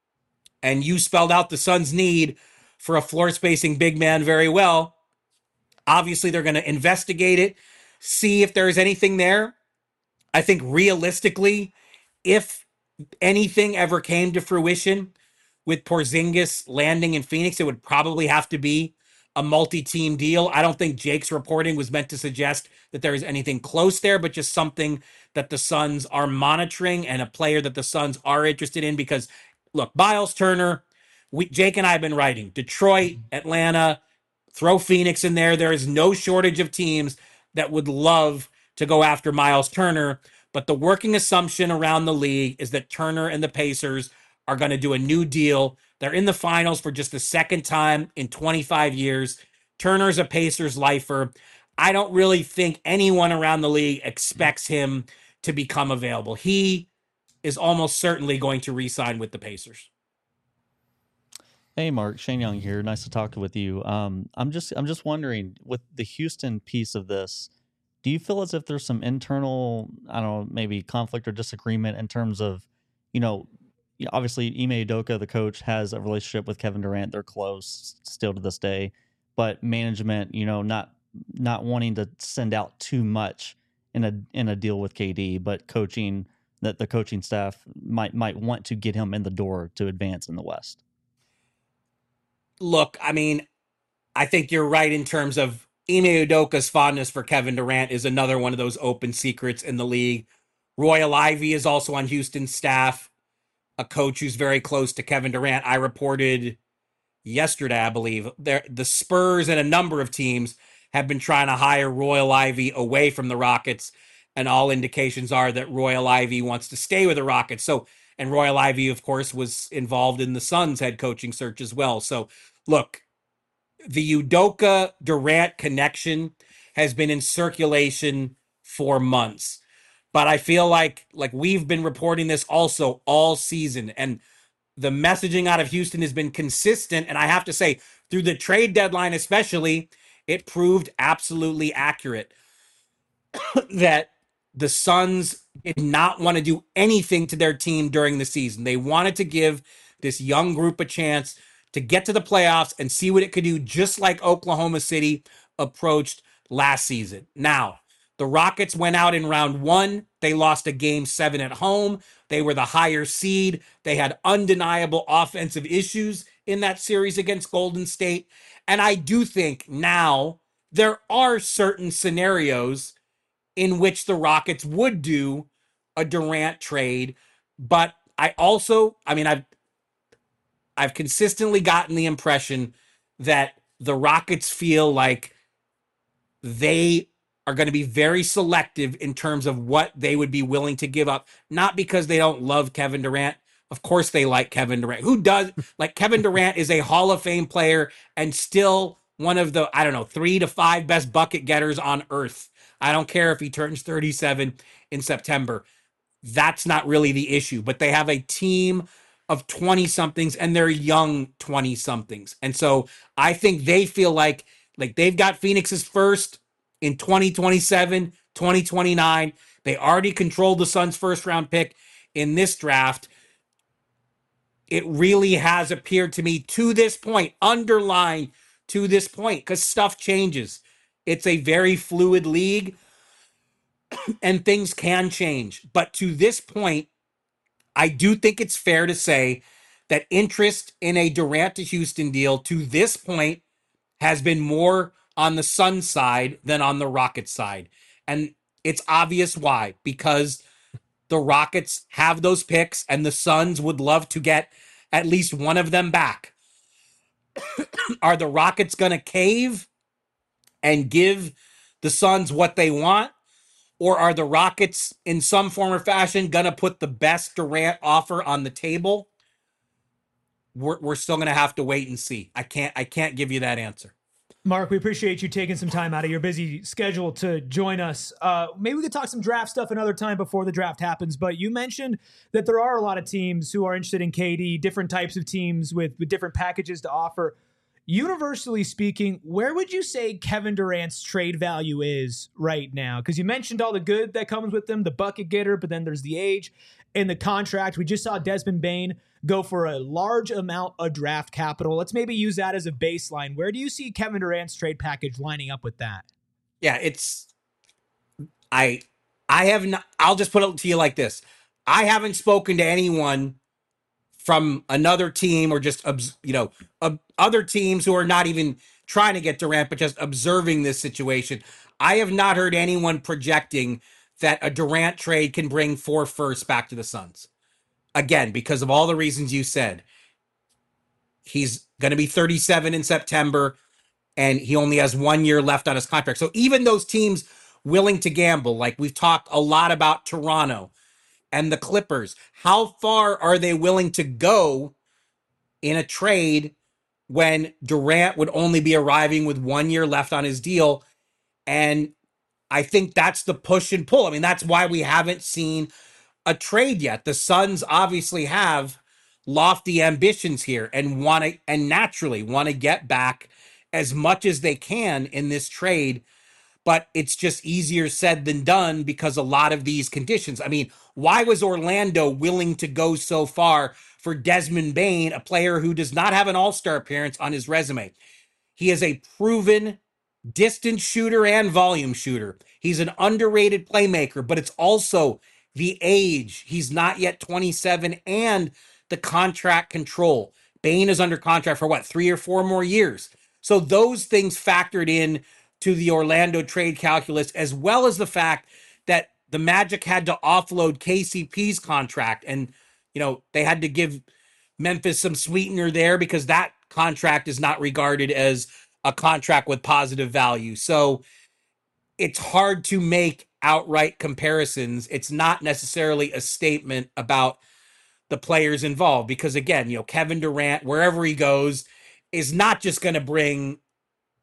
and you spelled out the Suns' need for a floor-spacing big man very well, obviously they're going to investigate it, see if there's anything there. I think realistically, if anything ever came to fruition with Porzingis landing in Phoenix, it would probably have to be a multi-team deal. I don't think Jake's reporting was meant to suggest that there is anything close there, but just something that the Suns are monitoring and a player that the Suns are interested in. Because, look, Miles Turner, we, Jake and I have been writing, Detroit, Atlanta, throw Phoenix in there. There is no shortage of teams that would love to go after Miles Turner. But the working assumption around the league is that Turner and the Pacers are going to do a new deal. They're in the finals for just the second time in twenty-five years. Turner's a Pacers lifer. I don't really think anyone around the league expects him to become available. He is almost certainly going to re-sign with the Pacers. Hey, Mark, Shane Young here. Nice to talk with you. Um, I'm just, I'm just wondering, with the Houston piece of this, do you feel as if there's some internal, I don't know, maybe conflict or disagreement in terms of, you know, obviously Ime Udoka, the coach, has a relationship with Kevin Durant. They're close still to this day, but management, you know, not not wanting to send out too much in a in a deal with K D, but coaching that the coaching staff might might want to get him in the door to advance in the West. Look, I mean, I think you're right in terms of Ime Udoka's fondness for Kevin Durant is another one of those open secrets in the league. Royal Ivey is also on Houston's staff, a coach who's very close to Kevin Durant. I reported yesterday, I believe, there the Spurs and a number of teams have been trying to hire Royal Ivey away from the Rockets, and all indications are that Royal Ivey wants to stay with the Rockets. So, and Royal Ivey, of course, was involved in the Suns head coaching search as well. So, look, the Udoka Durant connection has been in circulation for months. But I feel like like we've been reporting this also all season, and the messaging out of Houston has been consistent. And I have to say, through the trade deadline especially, it proved absolutely accurate that the Suns did not want to do anything to their team during the season. They wanted to give this young group a chance to get to the playoffs and see what it could do, just like Oklahoma City approached last season. Now, the Rockets went out in round one. They lost a game seven at home. They were the higher seed. They had undeniable offensive issues in that series against Golden State. And I do think now there are certain scenarios in which the Rockets would do a Durant trade. But I also, I mean, I've I've consistently gotten the impression that the Rockets feel like they are going to be very selective in terms of what they would be willing to give up. Not because they don't love Kevin Durant. Of course they like Kevin Durant. Who does? Like, Kevin Durant is a Hall of Fame player and still one of the, I don't know, three to five best bucket getters on earth. I don't care if he turns thirty-seven in September. That's not really the issue. But they have a team of twenty-somethings, and they're young twenty-somethings. And so I think they feel like like they've got Phoenix's first in twenty twenty-seven, twenty twenty-nine. They already controlled the Suns' first-round pick in this draft. It really has appeared to me to this point, underline to this point, because stuff changes. It's a very fluid league, and things can change. But to this point, I do think it's fair to say that interest in a Durant to Houston deal to this point has been more on the Suns side than on the Rockets side. And it's obvious why, because the Rockets have those picks and the Suns would love to get at least one of them back. Are the Rockets going to cave and give the Suns what they want? Or are the Rockets, in some form or fashion, going to put the best Durant offer on the table? We're, we're still going to have to wait and see. I can't I can't give you that answer. Mark, we appreciate you taking some time out of your busy schedule to join us. Uh, maybe we could talk some draft stuff another time before the draft happens, but you mentioned that there are a lot of teams who are interested in K D, different types of teams with, with different packages to offer. Universally speaking, where would you say Kevin Durant's trade value is right now? Because you mentioned all the good that comes with him, the bucket getter, but then there's the age and the contract. We just saw Desmond Bane go for a large amount of draft capital. Let's maybe use that as a baseline. Where do you see Kevin Durant's trade package lining up with that? Yeah, it's I I have not I'll just put it to you like this. I haven't spoken to anyone from another team or just, you know, uh, other teams who are not even trying to get Durant, but just observing this situation. I have not heard anyone projecting that a Durant trade can bring four firsts back to the Suns. Again, because of all the reasons you said. He's going to be thirty-seven in September, and he only has one year left on his contract. So even those teams willing to gamble, like we've talked a lot about Toronto and the Clippers, how far are they willing to go in a trade when Durant would only be arriving with one year left on his deal? And I think that's the push and pull. I mean, that's why we haven't seen a trade yet. The Suns obviously have lofty ambitions here and want to, and naturally want to get back as much as they can in this trade. But it's just easier said than done because a lot of these conditions. I mean, why was Orlando willing to go so far for Desmond Bane, a player who does not have an all-star appearance on his resume? He is a proven distance shooter and volume shooter. He's an underrated playmaker, but it's also the age. He's not yet twenty-seven, and the contract control. Bane is under contract for what, three or four more years. So those things factored in to the Orlando trade calculus, as well as the fact that the Magic had to offload K C P's contract. And, you know, they had to give Memphis some sweetener there because that contract is not regarded as a contract with positive value. So it's hard to make outright comparisons. It's not necessarily a statement about the players involved because, again, you know, Kevin Durant, wherever he goes, is not just going to bring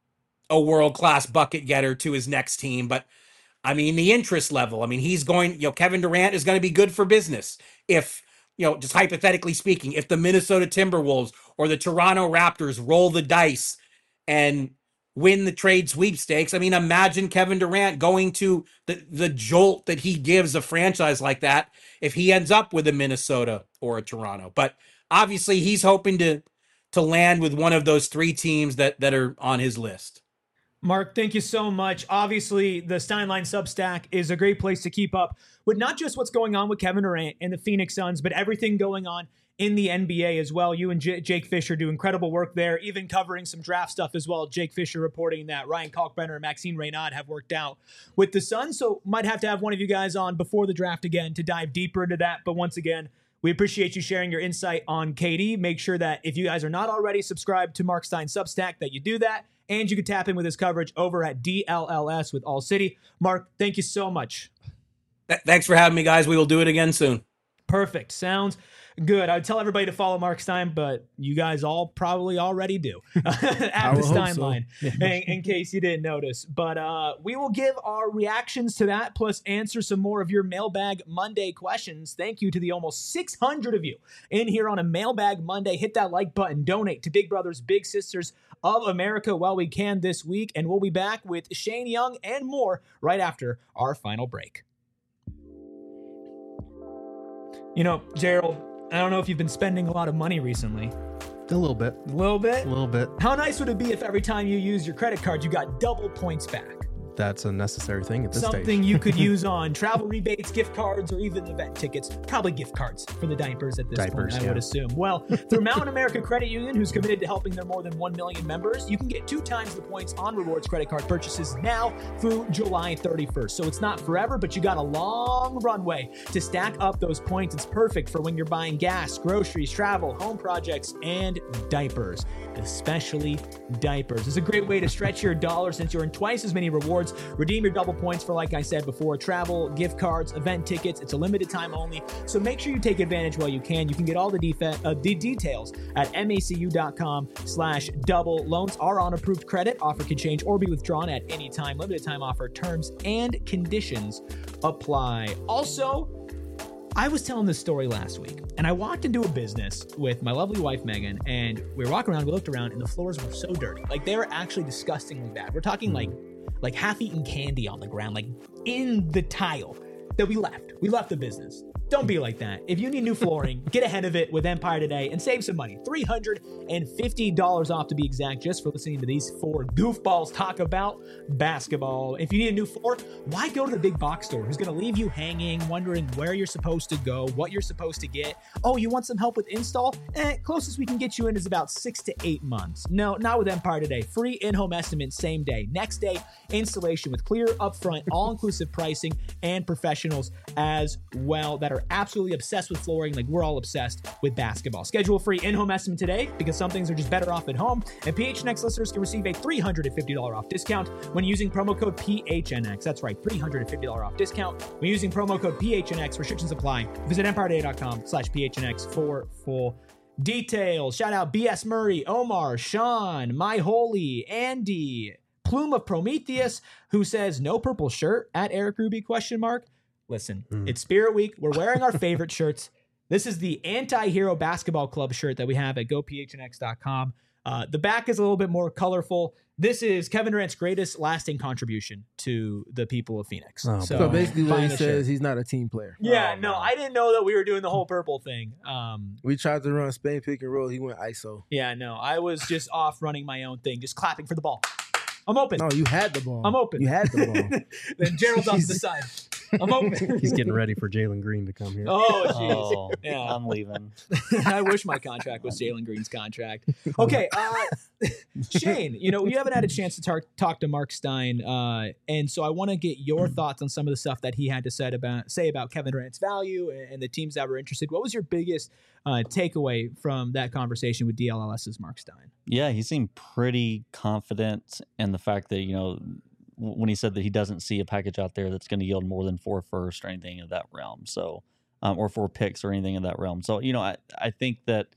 a world-class bucket getter to his next team. But I mean, the interest level, I mean, he's going, you know, Kevin Durant is going to be good for business. If, you know, just hypothetically speaking, if the Minnesota Timberwolves or the Toronto Raptors roll the dice and win the trade sweepstakes, I mean, imagine Kevin Durant going to the, the jolt that he gives a franchise like that if he ends up with a Minnesota or a Toronto. But obviously he's hoping to to land with one of those three teams that that are on his list. Mark, thank you so much. Obviously, the Steinline Substack is a great place to keep up with not just what's going on with Kevin Durant and the Phoenix Suns, but everything going on in the N B A as well. You and J- Jake Fisher do incredible work there, even covering some draft stuff as well. Jake Fisher reporting that Ryan Kalkbrenner and Maxime Reynaud have worked out with the Suns, so might have to have one of you guys on before the draft again to dive deeper into that. But once again, we appreciate you sharing your insight on K D. Make sure that if you guys are not already subscribed to Mark Stein Substack, that you do that. And you can tap in with his coverage over at D L L S with All City. Mark, thank you so much. Th- thanks for having me, guys. We will do it again soon. Perfect. Sounds good. I would tell everybody to follow Mark Stein, but you guys all probably already do at the Steinline, so. in, in case you didn't notice. But uh, we will give our reactions to that, plus answer some more of your Mailbag Monday questions. Thank you to the almost six hundred of you in here on a Mailbag Monday. Hit that like button. Donate to Big Brothers Big Sisters of America while we can this week. And we'll be back with Shane Young and more right after our final break. You know, Gerald, I don't know if you've been spending a lot of money recently. A little bit. A little bit? A little bit. How nice would it be if every time you use your credit card, you got double points back? That's a necessary thing at this Something stage. you could use on travel rebates, gift cards, or even event tickets. Probably gift cards for the diapers at this Diapers, point, I yeah. would assume. Well, through Mountain America Credit Union, who's committed to helping their more than one million members, you can get two times the points on rewards credit card purchases now through July thirty-first. So it's not forever, but you got a long runway to stack up those points. It's perfect for when you're buying gas, groceries, travel, home projects, and diapers. Especially diapers. It's a great way to stretch your dollar since you earn twice as many rewards. Redeem your double points for, like I said before, travel, gift cards, event tickets. It's a limited time only, so make sure you take advantage while you can. You can get all the, defa- uh, the details at macu.com slash double. Loans are on approved credit. Offer can change or be withdrawn at any time. Limited time offer. Terms and conditions apply. Also, I was telling this story last week, and I walked into a business with my lovely wife, Megan, and we were walking around, we looked around, and the floors were so dirty. Like, they were actually disgustingly bad. We're talking like, like half-eaten candy on the ground, like in the tile that we left. We left the business. Don't be like that. If you need new flooring, get ahead of it with Empire today and save some money. three hundred fifty dollars off to be exact, just for listening to these four goofballs talk about basketball. If you need a new floor, why go to the big box store who's going to leave you hanging, wondering where you're supposed to go, what you're supposed to get? Oh, you want some help with install? Eh, closest we can get you in is about six to eight months. No, not with Empire today. Free in-home estimate same day. Next day installation with clear, upfront, all-inclusive pricing and professionals as well that are absolutely obsessed with flooring like we're all obsessed with basketball. Schedule a free in-home estimate today because some things are just better off at home. And P H N X listeners can receive a three hundred fifty dollars off discount when using promo code P H N X. That's right, three hundred fifty dollars off discount when using promo code P H N X. Restrictions apply. Visit empireday.com slash P H N X for full details. Shout out B S Murray, Omar, Sean, My Holy, Andy, Plume of Prometheus, who says no purple shirt at Eric Ruby question mark. Listen, mm. It's Spirit Week. We're wearing our favorite shirts. This is the Anti-Hero Basketball Club shirt that we have at go P H N X dot com. Uh, the back is a little bit more colorful. This is Kevin Durant's greatest lasting contribution to the people of Phoenix. Oh, so, so basically what he says, shirt. He's not a team player. Yeah, oh, no, I didn't know that we were doing the whole purple thing. Um, we tried to run Spain pick and roll. He went I S O. Yeah, no, I was just off running my own thing, just clapping for the ball. I'm open. No, you had the ball. I'm open. You had the ball. Then Gerald's off to the side. I'm open. He's getting ready for Jalen Green to come here. Oh, jeez. Oh, Yeah. I'm leaving. I wish my contract was Jalen Green's contract. Okay, uh, Shane, you know, you haven't had a chance to tar- talk to Mark Stein, uh, and so I want to get your thoughts on some of the stuff that he had to say about, say about Kevin Durant's value and, and the teams that were interested. What was your biggest uh, takeaway from that conversation with D L L S's Mark Stein? Yeah, he seemed pretty confident in the fact that, you know, when he said that he doesn't see a package out there that's going to yield more than four first or anything of that realm. So, um, or four picks or anything in that realm. So, you know, I, I think that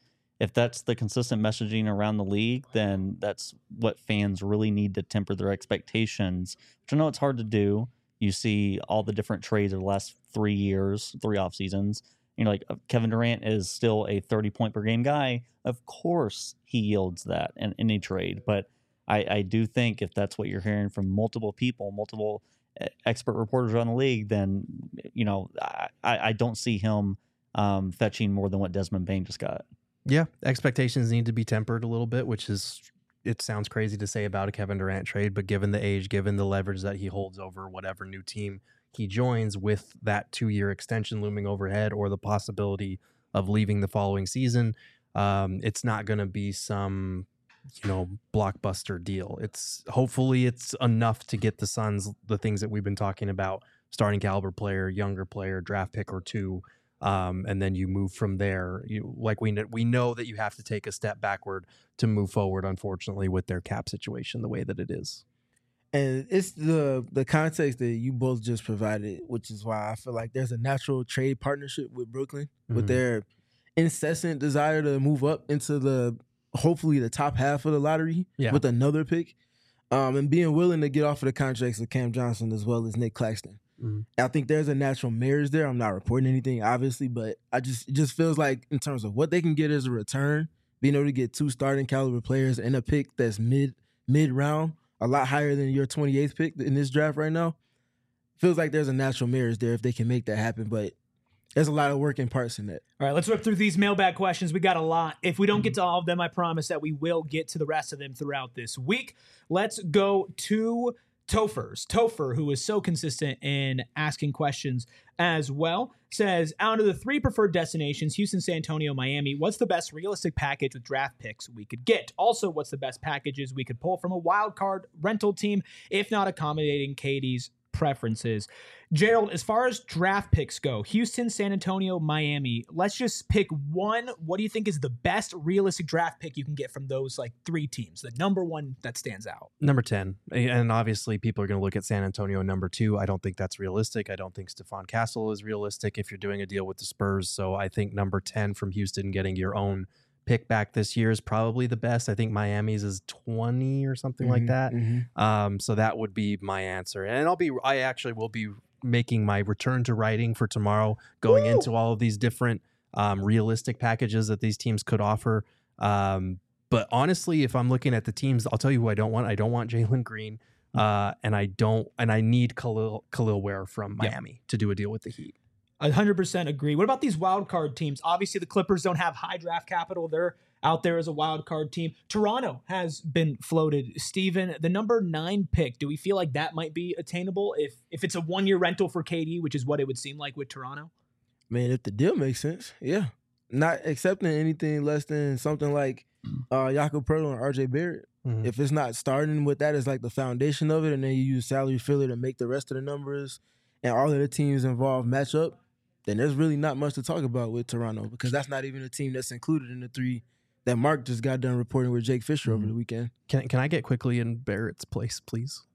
if that's the consistent messaging around the league, then that's what fans really need to temper their expectations, which I know it's hard to do. You see all the different trades of the last three years, three off seasons. You know, like Kevin Durant is still a thirty point per game guy. Of course, he yields that in any trade. But I, I do think if that's what you're hearing from multiple people, multiple expert reporters around the league, then, you know, I, I don't see him um, fetching more than what Desmond Bane just got. Yeah, expectations need to be tempered a little bit, which is, it sounds crazy to say about a Kevin Durant trade, but given the age, given the leverage that he holds over whatever new team he joins with that two-year extension looming overhead or the possibility of leaving the following season, um, it's not going to be some, you know, blockbuster deal. It's hopefully it's enough to get the Suns the things that we've been talking about: starting caliber player, younger player, draft pick or two, um, and then you move from there. You like we know, we know that you have to take a step backward to move forward. Unfortunately, with their cap situation the way that it is. And it's the the context that you both just provided, which is why I feel like there's a natural trade partnership with Brooklyn, mm-hmm. with their incessant desire to move up into the hopefully the top half of the lottery yeah. with another pick, um, and being willing to get off of the contracts of Cam Johnson as well as Nick Claxton. Mm-hmm. I think there's a natural marriage there. I'm not reporting anything, obviously, but I just it just feels like in terms of what they can get as a return, being able to get two starting caliber players and a pick that's mid mid round, a lot higher than your twenty-eighth pick in this draft right now, feels like there's a natural marriage there if they can make that happen. But there's a lot of working parts in that. All right, let's rip through these mailbag questions. We got a lot. If we don't get to all of them, I promise that we will get to the rest of them throughout this week. Let's go to Topher's. Topher, who is so consistent in asking questions as well, says, out of the three preferred destinations, Houston, San Antonio, Miami, what's the best realistic package with draft picks we could get? Also, what's the best packages we could pull from a wild card rental team, if not accommodating K D's preferences? Gerald, as far as draft picks go, Houston, San Antonio, Miami, let's just pick one. What do you think is the best realistic draft pick you can get from those like three teams? The number one that stands out. Number ten. And obviously people are going to look at San Antonio number two. I don't think that's realistic. I don't think Stephon Castle is realistic if you're doing a deal with the Spurs. So I think number ten from Houston, getting your own pick back this year, is probably the best. I think Miami's is twenty or something mm-hmm, like that. Mm-hmm. Um, so that would be my answer. And I'll be, I actually will be making my return to writing for tomorrow, going Woo! into all of these different um, realistic packages that these teams could offer. Um, but honestly, if I'm looking at the teams, I'll tell you who I don't want. I don't want Jalen Green. Uh, and I don't, and I need Khalil, Khalil Ware from Miami yep. to do a deal with the Heat. one hundred percent agree. What about these wild card teams? Obviously, the Clippers don't have high draft capital. They're out there as a wild card team. Toronto has been floated. Steven, the number nine pick, do we feel like that might be attainable if if it's a one-year rental for K D, which is what it would seem like with Toronto? Man, if the deal makes sense, yeah. Not accepting anything less than something like uh, Jakob Poeltl and R J Barrett. Mm-hmm. If it's not starting with that as like the foundation of it, and then you use salary filler to make the rest of the numbers and all of the teams involved match up, then there's really not much to talk about with Toronto, because that's not even a team that's included in the three that Mark just got done reporting with Jake Fisher mm-hmm. over the weekend. Can can I get quickly in Barrett's place, please?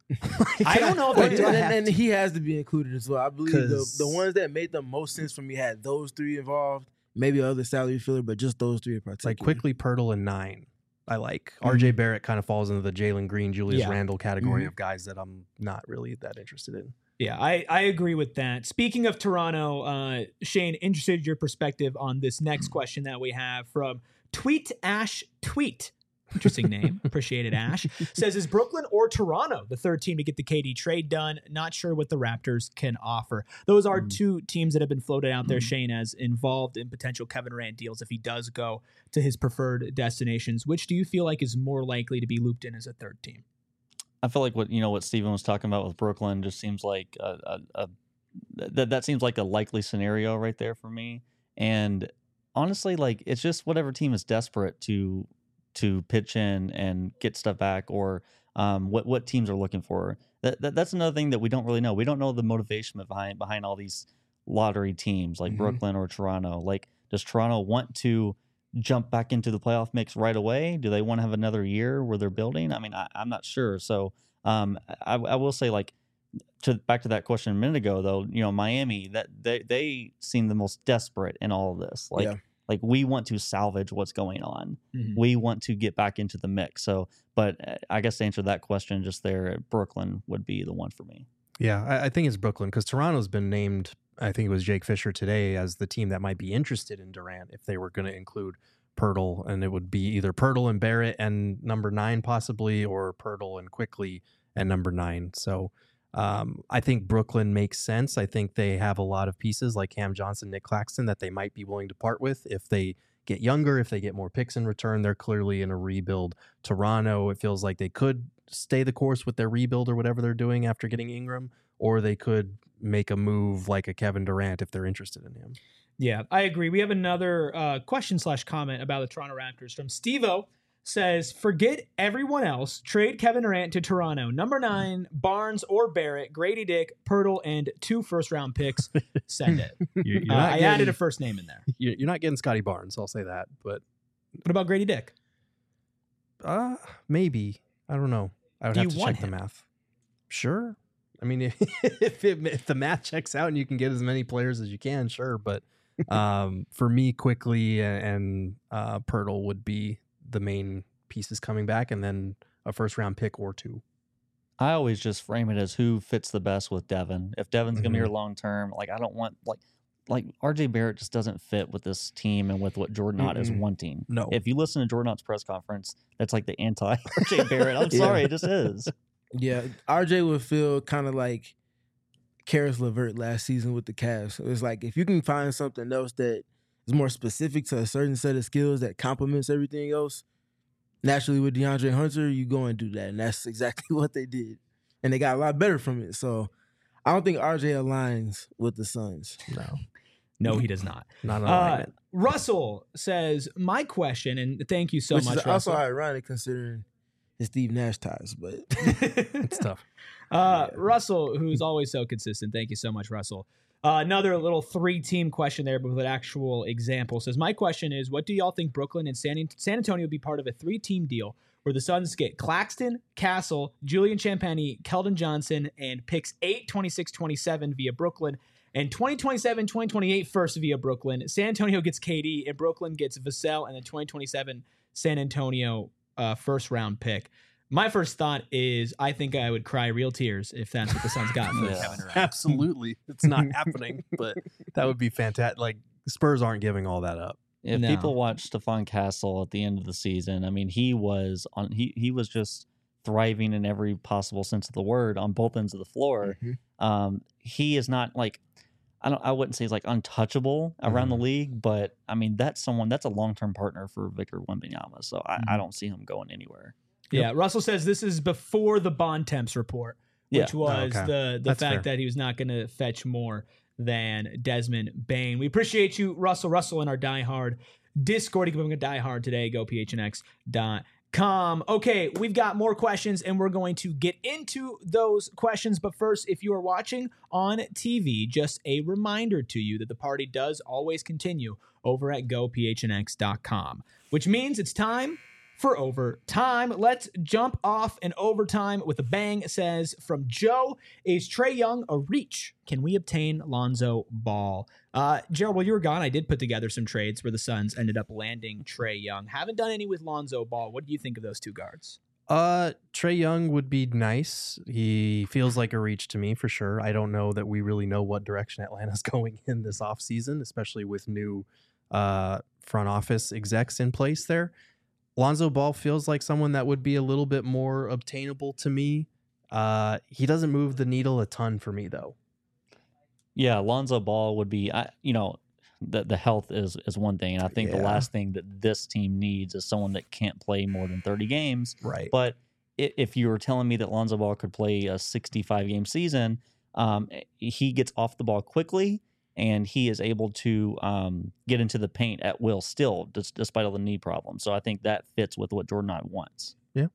I don't know if I do. And, and, and he has to be included as well. I believe the, the ones that made the most sense for me had those three involved, maybe other salary filler, but just those three in particular. Like quickly, Poeltl and nine. I like. Mm-hmm. R J Barrett kind of falls into the Jalen Green, Julius yeah. Randle category mm-hmm. of guys that I'm not really that interested in. Yeah, I, I agree with that. Speaking of Toronto, uh, Shane, interested in your perspective on this next question that we have from Tweet Ash Tweet. Interesting name. Appreciate it, Ash. Says, is Brooklyn or Toronto the third team to get the K D trade done? Not sure what the Raptors can offer. Those are mm. two teams that have been floated out there, mm. Shane, as involved in potential Kevin Durant deals if he does go to his preferred destinations. Which do you feel like is more likely to be looped in as a third team? I feel like what you know what Steven was talking about with Brooklyn just seems like a, a, a that that seems like a likely scenario right there for me. And honestly, like it's just whatever team is desperate to to pitch in and get stuff back, or um, what what teams are looking for. That, that that's another thing that we don't really know. We don't know the motivation behind behind all these lottery teams like mm-hmm. Brooklyn or Toronto. Like, does Toronto want to jump back into the playoff mix right away? Do they want to have another year where they're building? I mean, I, I'm not sure. So um, I, I will say, like, to back to that question a minute ago, though, you know, Miami, that they they seem the most desperate in all of this. Like, yeah. like we want to salvage what's going on. Mm-hmm. We want to get back into the mix. So, but I guess to answer that question just there, Brooklyn would be the one for me. Yeah, I, I think it's Brooklyn because Toronto's been named, I think it was Jake Fisher today, as the team that might be interested in Durant if they were going to include Pirtle, and it would be either Pirtle and Barrett and number nine possibly, or Pirtle and Quickly and number nine. So um, I think Brooklyn makes sense. I think they have a lot of pieces like Cam Johnson, Nick Claxton that they might be willing to part with if they get younger, if they get more picks in return. They're clearly in a rebuild. Toronto, it feels like they could stay the course with their rebuild or whatever they're doing after getting Ingram, or they could make a move like a Kevin Durant if they're interested in him. Yeah, I agree. We have another uh, question slash comment about the Toronto Raptors from Steve-O. Says, forget everyone else. Trade Kevin Durant to Toronto. Number nine, Barnes or Barrett, Grady Dick, Pirtle, and two first-round picks. Send it. You're, you're Uh, not I getting, added a first name in there. you're you're not getting Scotty Barnes, I'll say that. But What about Grady Dick? uh, maybe. I don't know. I would Do have you to want check him? the math. Sure. I mean, if, if, it, if the math checks out and you can get as many players as you can, sure. But um, for me, Quickly and uh, Pirtle would be the main pieces coming back, and then a first round pick or two. I always just frame it as who fits the best with Devin. If Devin's gonna be Mhm. here long term, like I don't want like like R J Barrett just doesn't fit with this team and with what Jordan Ott is Mm-mm. wanting. No. If you listen to Jordan Ott's press conference, that's like the anti R J Barrett. I'm Yeah. sorry, it just is. Yeah, R J would feel kind of like Karis LeVert last season with the Cavs. So it's like if you can find something else that is more specific to a certain set of skills that complements everything else, naturally with DeAndre Hunter, you go and do that. And that's exactly what they did. And they got a lot better from it. So I don't think R J aligns with the Suns. No, No, he does not. not an Uh, alignment. Russell says, my question, and thank you so Which much, is also Russell. ironic considering his Steve Nash ties, but It's tough. Uh, Russell, who's always so consistent. Thank you so much, Russell. Uh, another little three-team question there, but with an actual example. Says, my question is, what do y'all think Brooklyn and San, San Antonio would be part of a three-team deal where the Suns get Claxton, Castle, Julian Champagnie, Keldon Johnson, and picks eight, twenty-six, twenty-seven via Brooklyn, and twenty twenty-seven, twenty twenty-eight first via Brooklyn. San Antonio gets K D, and Brooklyn gets Vassell, and then twenty twenty-seven San Antonio uh, first-round pick. My first thought is I think I would cry real tears if that's what the Suns got for Yeah. Kevin Durant. Absolutely. It's not happening, but that would be fantastic. Like, Spurs aren't giving all that up. If No. people watch Stephon Castle at the end of the season, I mean, he was on. He he was just thriving in every possible sense of the word on both ends of the floor. Mhm. Um, he is not like I don't. I wouldn't say he's like untouchable around the league, but I mean that's someone that's a long term partner for Victor Wembanyama. So I, I don't see him going anywhere. Yeah, Russell says this is before the Bond Temps report, Yeah. which was Okay. the the That's fact fair. that he was not going to fetch more than Desmond Bain. We appreciate you, Russell. Russell in our Die Hard Discord. You can become a Die Hard today. Go P H N X dot com. Okay, we've got more questions, and we're going to get into those questions. But first, if you are watching on T V, just a reminder to you that the party does always continue over at go P H N X dot com, which means it's time for overtime. Let's jump off in overtime with a bang. It says from Joe, is Trae Young a reach? Can we obtain Lonzo Ball? Uh, Gerald, while you were gone, I did put together some trades where the Suns ended up landing Trae Young. Haven't done any with Lonzo Ball. What do you think of those two guards? Uh, Trae Young would be nice. He feels like a reach to me for sure. I don't know that we really know what direction Atlanta's going in this offseason, especially with new uh, front office execs in place there. Lonzo Ball feels like someone that would be a little bit more obtainable to me. Uh, he doesn't move the needle a ton for me, though. Yeah, Lonzo Ball would be. I, you know, the the health is is one thing, and I think the Yeah. last thing that this team needs is someone that can't play more than thirty games. Right. But i- if you were telling me that Lonzo Ball could play a sixty-five game season, um, he gets off the ball quickly and he is able to um, get into the paint at will still, dis- despite all the knee problems. So I think that fits with what Jordan Ott wants.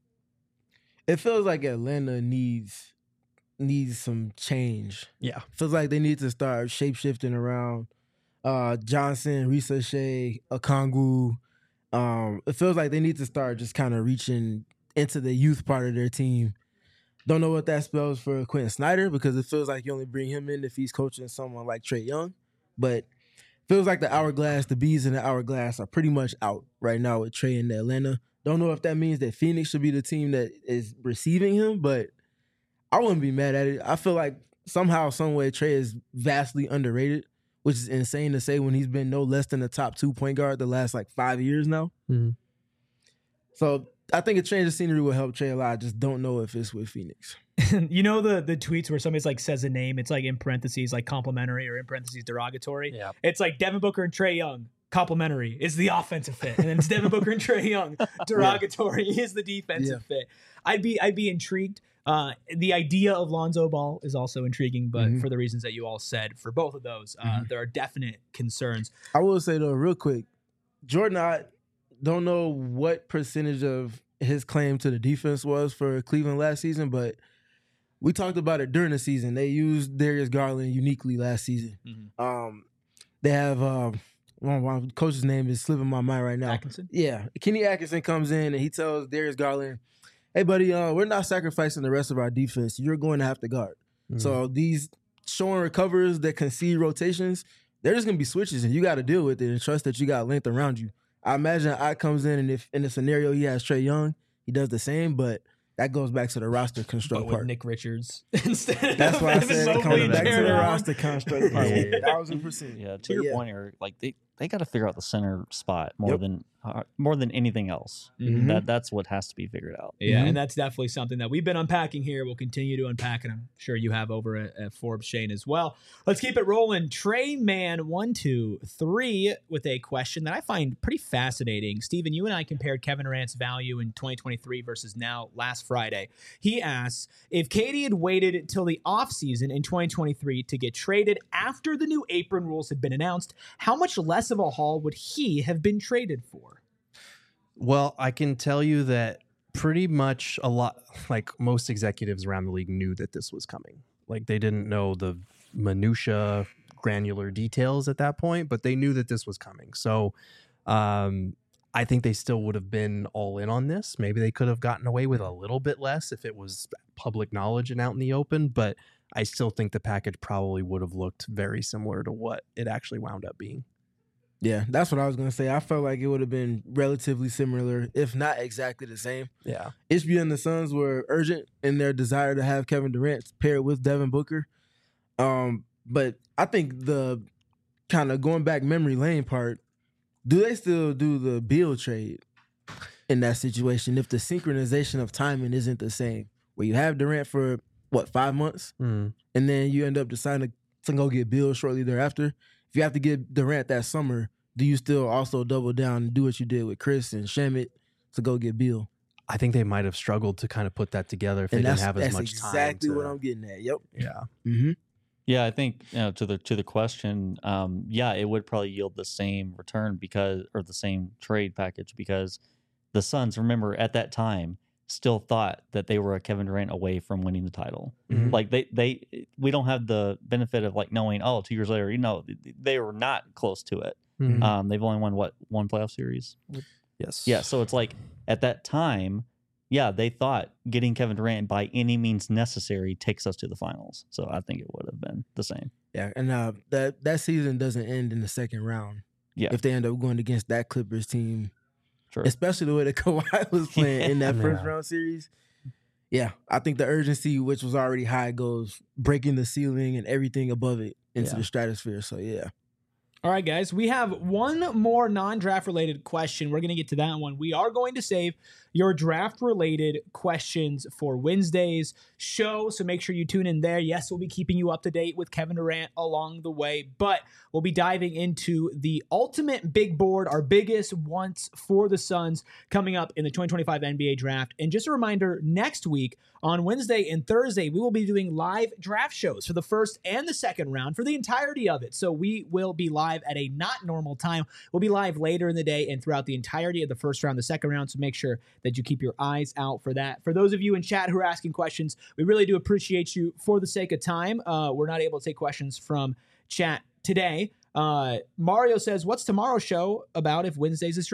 it feels like Atlanta needs needs some change. Yeah. Feels like they need to start shape shifting around uh, Johnson, Risa Shea, Okongwu. Um, it feels like they need to start just kind of reaching into the youth part of their team. Don't know what that spells for Quentin Snyder because it feels like you only bring him in if he's coaching someone like Trae Young. But feels like the hourglass, the bees in the hourglass are pretty much out right now with Trey in Atlanta. Don't know if that means that Phoenix should be the team that is receiving him, but I wouldn't be mad at it. I feel like somehow, some way, Trey is vastly underrated, which is insane to say when he's been no less than the top two point guard the last like five years now. Mm-hmm. So I think a change of scenery will help Trey a lot. I just don't know if it's with Phoenix. You know the the tweets where somebody's like says a name, it's like in parentheses like complimentary or in parentheses derogatory. Yeah. It's like Devin Booker and Trey Young. Complimentary is the offensive fit, and then it's Devin Booker and Trey Young. Derogatory yeah. is the defensive yeah. fit. I'd be I'd be intrigued. Uh, the idea of Lonzo Ball is also intriguing, but mm-hmm. for the reasons that you all said, for both of those, uh, mm-hmm. there are definite concerns. I will say though, real quick, Jordan, I don't know what percentage of his claim to the defense was for Cleveland last season, but we talked about it during the season. They used Darius Garland uniquely last season. Mm-hmm. Um, they have um, well, my coach's name is slipping my mind right now. Atkinson? Yeah, Kenny Atkinson comes in and he tells Darius Garland, "Hey, buddy, uh, we're not sacrificing the rest of our defense. You're going to have to guard." Mm-hmm. So these showing recovers that concede rotations, they're just going to be switches, and you got to deal with it and trust that you got length around you. I imagine I comes in, and if in the scenario he has Trey Young, he does the same, but that goes back to the roster construct but with part. Nick Richards instead. That's of why I said it comes back to the Young. roster construct part. Yeah. Thousand percent. Yeah, to But your yeah. point, Eric, like they, they got to figure out the center spot more Yep. than uh, more than anything else. Mhm. That that's what has to be figured out. Yeah, Mhm. and that's definitely something that we've been unpacking here. We'll continue to unpack, and I'm sure you have over at, at Forbes Shane as well. Let's keep it rolling. Trey Man one two three with a question that I find pretty fascinating. Steven, you and I compared Kevin Durant's value in twenty twenty-three versus now last Friday. He asks, if K D had waited till the offseason in twenty twenty-three to get traded after the new apron rules had been announced, how much less of a haul would he have been traded for? Well, I can tell you that pretty much a lot, like most executives around the league knew that this was coming. Like they didn't know the minutia, granular details at that point, but they knew that this was coming. So um, I think they still would have been all in on this. Maybe they could have gotten away with a little bit less if it was public knowledge and out in the open, but I still think the package probably would have looked very similar to what it actually wound up being. Yeah, that's what I was going to say. I felt like it would have been relatively similar, if not exactly the same. Yeah. H B and the Suns were urgent in their desire to have Kevin Durant paired with Devin Booker. Um, but I think the kind of going back memory lane part, do they still do the Beal trade in that situation if the synchronization of timing isn't the same? Where you have Durant for, what, five months? Mm. And then you end up deciding to go get Beal shortly thereafter. If you have to get Durant that summer, do you still also double down and do what you did with Chris and Shamet to go get Beal? I think they might have struggled to kind of put that together if And they didn't that's, have as that's much exactly time. Exactly what I'm getting at. Yep. Yeah. Mm-hmm. Yeah, I think you know, to the to the question, um, yeah, it would probably yield the same return because or the same trade package because the Suns, remember at that time, still thought that they were a Kevin Durant away from winning the title. Mhm. Like they they we don't have the benefit of like knowing, oh, two years later, you know, they were not close to it. Mhm. Um, they've only won what one playoff series. Yes. Yeah, so it's like at that time, yeah, they thought getting Kevin Durant by any means necessary takes us to the finals. So I think it would have been the same. Yeah, and uh, that that season doesn't end in the second round. Yeah. If they end up going against that Clippers team, Sure. especially the way that Kawhi was playing in that first Yeah. round series. Yeah, I think the urgency, which was already high, goes breaking the ceiling and everything above it into Yeah. the stratosphere. So yeah. All right, guys, we have one more non-draft related question. We're going to get to that one. We are going to save your draft related questions for Wednesday's show, so make sure you tune in there. Yes, we'll be keeping you up to date with Kevin Durant along the way, but we'll be diving into the ultimate big board, our biggest once for the Suns coming up in the twenty twenty-five N B A draft. And just a reminder, next week on Wednesday and Thursday, we will be doing live draft shows for the first and the second round for the entirety of it. So we will be live at a not normal time. We'll be live later in the day and throughout the entirety of the first round, the second round. So make sure that you keep your eyes out for that. For those of you in chat who are asking questions, we really do appreciate you. For the sake of time, uh, we're not able to take questions from chat today. Uh, Mario says, what's tomorrow's show about if Wednesday's is draft?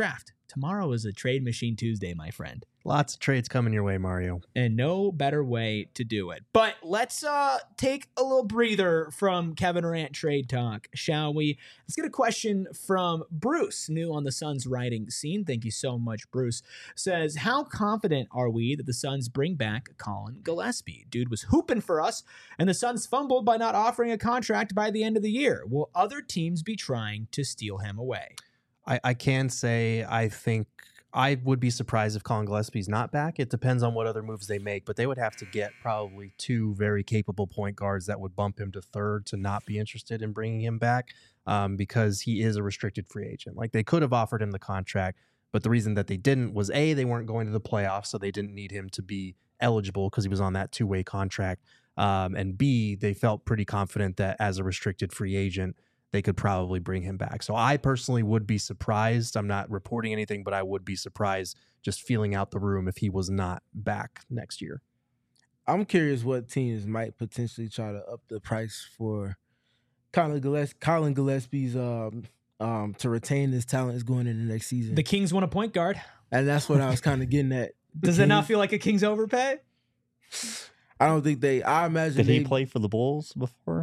tomorrow is a trade machine Tuesday, my friend. Lots of trades coming your way, Mario. And no better way to do it. But let's uh, take a little breather from Kevin Durant trade talk, shall we? Let's get a question from Bruce, new on the Suns writing scene. Thank you so much, Bruce. Says, how confident are we that the Suns bring back Colin Gillespie? Dude was hooping for us, and the Suns fumbled by not offering a contract by the end of the year. Will other teams be trying to steal him away? I, I can say I think I would be surprised if Colin Gillespie's not back. It depends on what other moves they make, but they would have to get probably two very capable point guards that would bump him to third to not be interested in bringing him back um, because he is a restricted free agent. Like, they could have offered him the contract, but the reason that they didn't was A, they weren't going to the playoffs, so they didn't need him to be eligible because he was on that two-way contract. Um, and B, they felt pretty confident that as a restricted free agent, they could probably bring him back. So I personally would be surprised. I'm not reporting anything, but I would be surprised just feeling out the room if he was not back next year. I'm curious what teams might potentially try to up the price for Colin Gillespie, Colin Gillespie's um, um, to retain his talent is going into next season. The Kings want a point guard. And that's what I was kind of getting at. Does it not feel like a Kings overpay? I don't think they, I imagine Did they, he play for the Bulls before?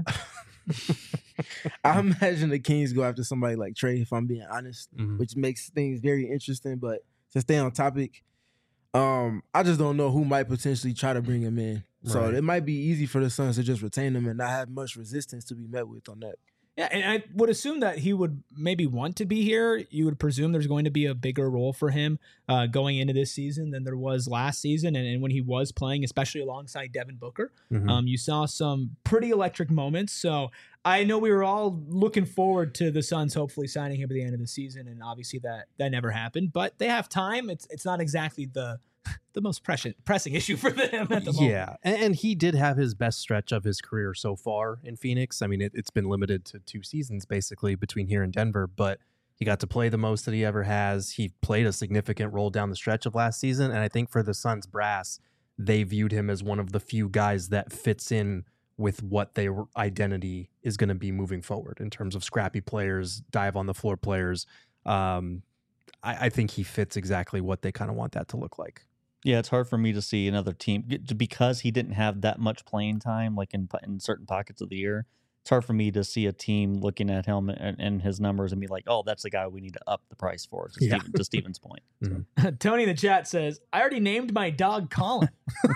I imagine the Kings go after somebody like Trey, if I'm being honest, Mhm. which makes things very interesting. But to stay on topic, um, I just don't know who might potentially try to bring him in. So Right. it might be easy for the Suns to just retain him and not have much resistance to be met with on that. Yeah, and I would assume that he would maybe want to be here. You would presume there's going to be a bigger role for him uh, going into this season than there was last season. And, and when he was playing, especially alongside Devin Booker, Mhm. um, you saw some pretty electric moments. So I know we were all looking forward to the Suns hopefully signing him at the end of the season. And obviously that that never happened. But they have time. It's it's not exactly the the most pressing pressing issue for them at the moment. Yeah, and, and he did have his best stretch of his career so far in Phoenix. I mean, it, it's been limited to two seasons basically between here and Denver, but he got to play the most that he ever has. He played a significant role down the stretch of last season, and I think for the Suns brass, they viewed him as one of the few guys that fits in with what their identity is going to be moving forward in terms of scrappy players, dive on the floor players. Um, I, I think he fits exactly what they kind of want that to look like. Yeah, it's hard for me to see another team because he didn't have that much playing time, like in in certain pockets of the year. It's hard for me to see a team looking at him and, and his numbers and be like, "Oh, that's the guy we need to up the price for." To, Yeah. Steven, to Steven's point, so. Tony in the chat says, I already named my dog Colin.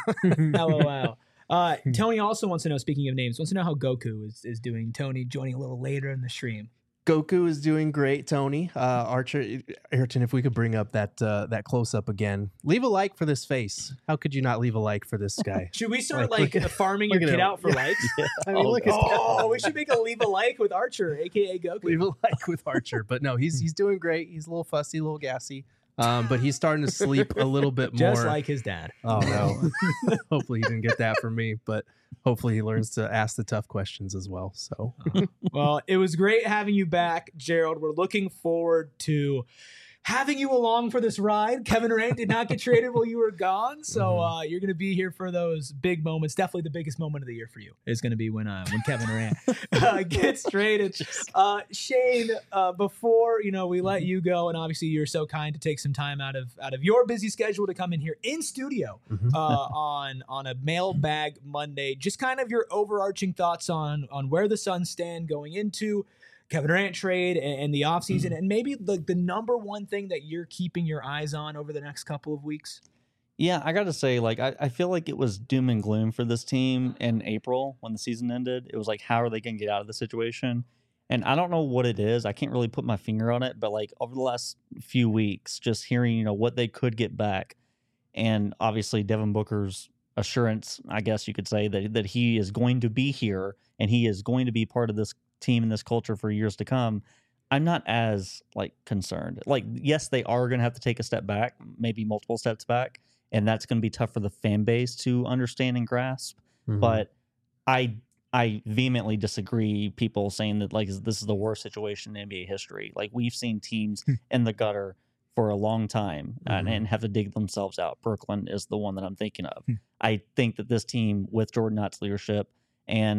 LOL. Uh, Tony also wants to know, speaking of names, wants to know how Goku is, is doing. Tony joining a little later in the stream. Goku is doing great, Tony. Uh, Archer, Ayrton, if we could bring up that uh, that close up again. Leave a like for this face. How could you not leave a like for this guy? Should we start Like, like, look at- farming look your at kid him. out for likes? I mean, Oh, look at Oh, we should make a leave a like with Archer, aka Goku. leave a like with Archer. But no, he's he's doing great. He's a little fussy, a little gassy. Um, but he's starting to sleep a little bit more. Just like his dad. Oh no. Hopefully he didn't get that from me, but hopefully he learns to ask the tough questions as well. So Well, it was great having you back, Gerald. We're looking forward to having you along for this ride. Kevin Durant did not get traded while you were gone, so uh, you're going to be here for those big moments. Definitely the biggest moment of the year for you is going to be when uh, when Kevin Durant uh, gets traded. Uh, Shane, uh, before you know we let you go, and obviously you're so kind to take some time out of out of your busy schedule to come in here in studio Mhm. uh, on on a mailbag Monday. Just kind of your overarching thoughts on on where the Suns stand going into Kevin Durant trade and, and the offseason, and maybe the, the number one thing that you're keeping your eyes on over the next couple of weeks. Yeah, I got to say, like, I, I feel like it was doom and gloom for this team in April when the season ended. It was like, how are they going to get out of the situation? And I don't know what it is. I can't really put my finger on it, but like over the last few weeks, just hearing, you know, what they could get back. And obviously Devin Booker's assurance, I guess you could say, that, that he is going to be here and he is going to be part of this team and this culture for years to come. I'm not as like concerned. Like, yes, they are going to have to take a step back, maybe multiple steps back. And that's going to be tough for the fan base to understand and grasp. Mhm. But I I vehemently disagree people saying that like this is the worst situation in N B A history. Like we've seen teams in the gutter for a long time and, Mhm. and have to dig themselves out. Brooklyn is the one that I'm thinking of. I think that this team with Jordan Knott's leadership and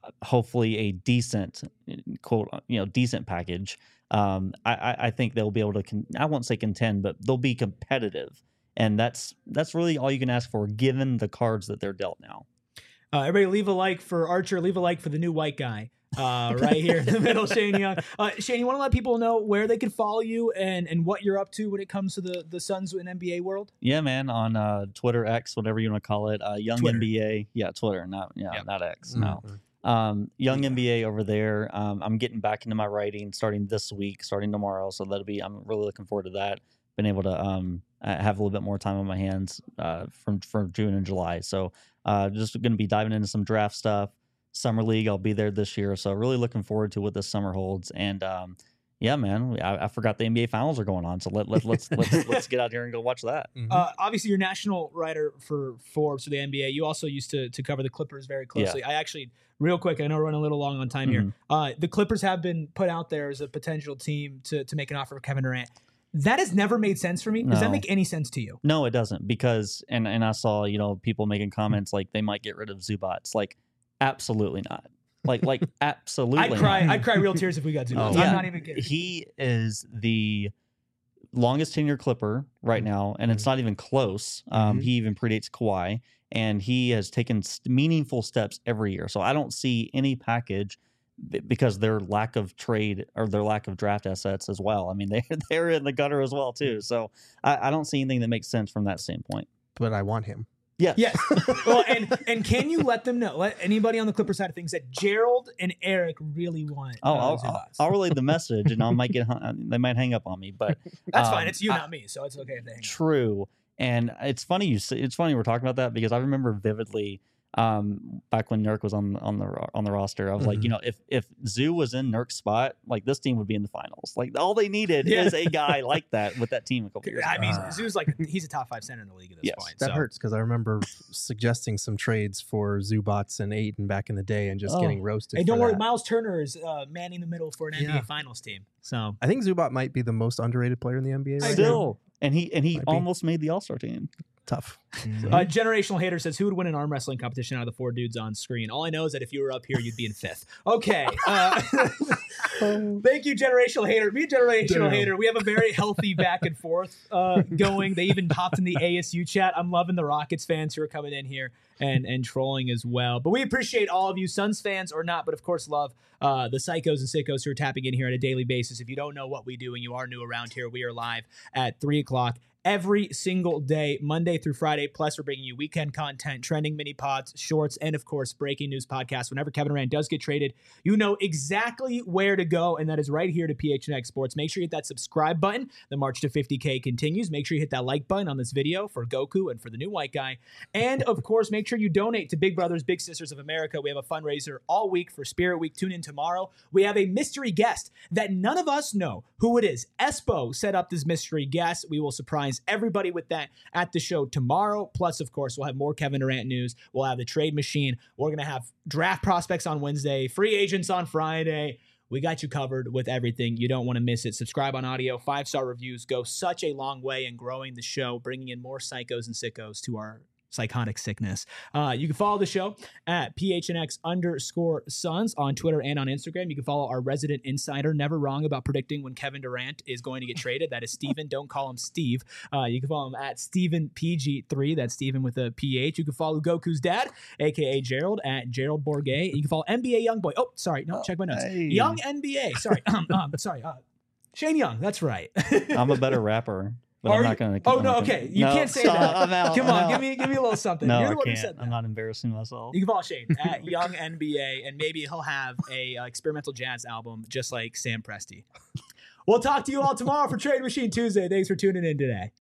hopefully a decent quote, you know, decent package. Um, I, I, I think they'll be able to. Con- I won't say contend, but they'll be competitive, and that's that's really all you can ask for, given the cards that they're dealt now. Uh, everybody, leave a like for Archer. Leave a like for the new white guy. Uh, right here in the middle, Shane Young. Uh, Shane, you want to let people know where they can follow you and, and what you're up to when it comes to the, the Suns and N B A world? Yeah, man, on uh, Twitter, X, whatever you want to call it, uh, Young Twitter. N B A. Yeah, Twitter, not yeah, Yep. not X. Mhm. No, um, Young N B A over there. Um, I'm getting back into my writing starting this week, starting tomorrow. So that'll be. I'm really looking forward to that. Been able to um uh, have a little bit more time on my hands uh, from from June and July. So uh, just going to be diving into some draft stuff. Summer League, I'll be there this year, so really looking forward to what this summer holds. And um, yeah, man, I, I forgot the N B A finals are going on, so let, let let's let's let's get out here and go watch that. Mhm. Uh, obviously, you're national writer for Forbes for the N B A. You also used to to cover the Clippers very closely. I actually, real quick, I know we're running a little long on time Mhm. here. Uh, the Clippers have been put out there as a potential team to to make an offer for Kevin Durant. That has never made sense for me. Does that No. make any sense to you? No, it doesn't, because and and I saw, you know, people making comments like they might get rid of Zubats. Like, absolutely not. Like like absolutely. I'd cry. not. I'd cry real tears if we got to. Oh. I'm Yeah. not even kidding. He is the longest tenure Clipper right now, and it's not even close. Um, Mhm. He even predates Kawhi, and he has taken s- meaningful steps every year. So I don't see any package b- because their lack of trade or their lack of draft assets as well. I mean, they they're in the gutter as well too. So I, I don't see anything that makes sense from that standpoint. But I want him. Yes. Yes. Well, and and can you let them know, let anybody on the Clipper side of things, that Gerald and Eric really want Oh, uh, I'll, I'll, Zubats? I'll relay the message, and I might get hung, they might hang up on me, but That's um, fine. It's you, I- not me, so it's okay if they hang up. True. And it's funny you say, it's funny we're talking about that, because I remember vividly um back when Nurk was on on the ro- on the roster. I was like, Mhm. you know, if if Zoo was in Nurk's spot, like this team would be in the finals. Like all they needed Yeah. is a guy like that with that team a couple years I ago. mean, Ah. Zoo's like he's a top five center in the league at this Yes, point. That so. hurts because I remember suggesting some trades for Zubats and Aiden back in the day and just Oh. getting roasted. Hey, don't for worry, that. Miles Turner is uh, manning the middle for an N B A Yeah. Finals team. So I think Zubat might be the most underrated player in the N B A right now. Still, and he and he Might be. almost made the All Star team. Tough. Uh, Generational Hater says, who would win an arm wrestling competition out of the four dudes on screen? All I know is that if you were up here, you'd be in fifth. Okay. Uh, thank you, Generational Hater. Me and Generational Damn. Hater, we have a very healthy back and forth uh, going. They even hopped in the A S U chat. I'm loving the Rockets fans who are coming in here and, and trolling as well. But we appreciate all of you, Suns fans or not, but of course love uh, the psychos and sickos who are tapping in here on a daily basis. If you don't know what we do and you are new around here, we are live at three o'clock every single day, Monday through Friday. Plus, we're bringing you weekend content, trending mini pods, shorts, and of course, breaking news podcasts. Whenever Kevin Durant does get traded, you know exactly where to go, and that is right here to P H N X Sports. Make sure you hit that subscribe button. The march to fifty K continues. Make sure you hit that like button on this video for Goku and for the new white guy. And of course, make sure you donate to Big Brothers Big Sisters of America. We have a fundraiser all week for Spirit Week. Tune in tomorrow. We have a mystery guest that none of us know who it is. Espo set up this mystery guest. We will surprise everybody with that at the show tomorrow. Plus, of course, we'll have more Kevin Durant news. We'll have the trade machine. We're going to have draft prospects on Wednesday, free agents on Friday. We got you covered with everything. You don't want to miss it. Subscribe on audio. Five-star reviews go such a long way in growing the show, bringing in more psychos and sickos to our psychotic sickness. Uh, you can follow the show at P H N X underscore Suns on Twitter and on Instagram. You can follow our resident insider, never wrong about predicting when Kevin Durant is going to get traded. That is Steven. Don't call him Steve. Uh, you can follow him at Steven P G three. That's Steven with a P H. You can follow Goku's dad, a k a. Gerald, at Gerald Bourget. You can follow N B A Youngboy. Oh, sorry. No, check my notes. Hey. Young N B A. Sorry. um, um, sorry. Uh, Shane Young. That's right. I'm a better rapper, but Are I'm you- not going to. Oh, no, okay. You can't say that. I'm out. Come I'm on. out. Give me, give me a little something. No, You're the I one who can't. said that. I'm not embarrassing myself. You can follow Shane at Young N B A, and maybe he'll have a uh, experimental jazz album just like Sam Presti. We'll talk to you all tomorrow for Trade Machine Tuesday. Thanks for tuning in today.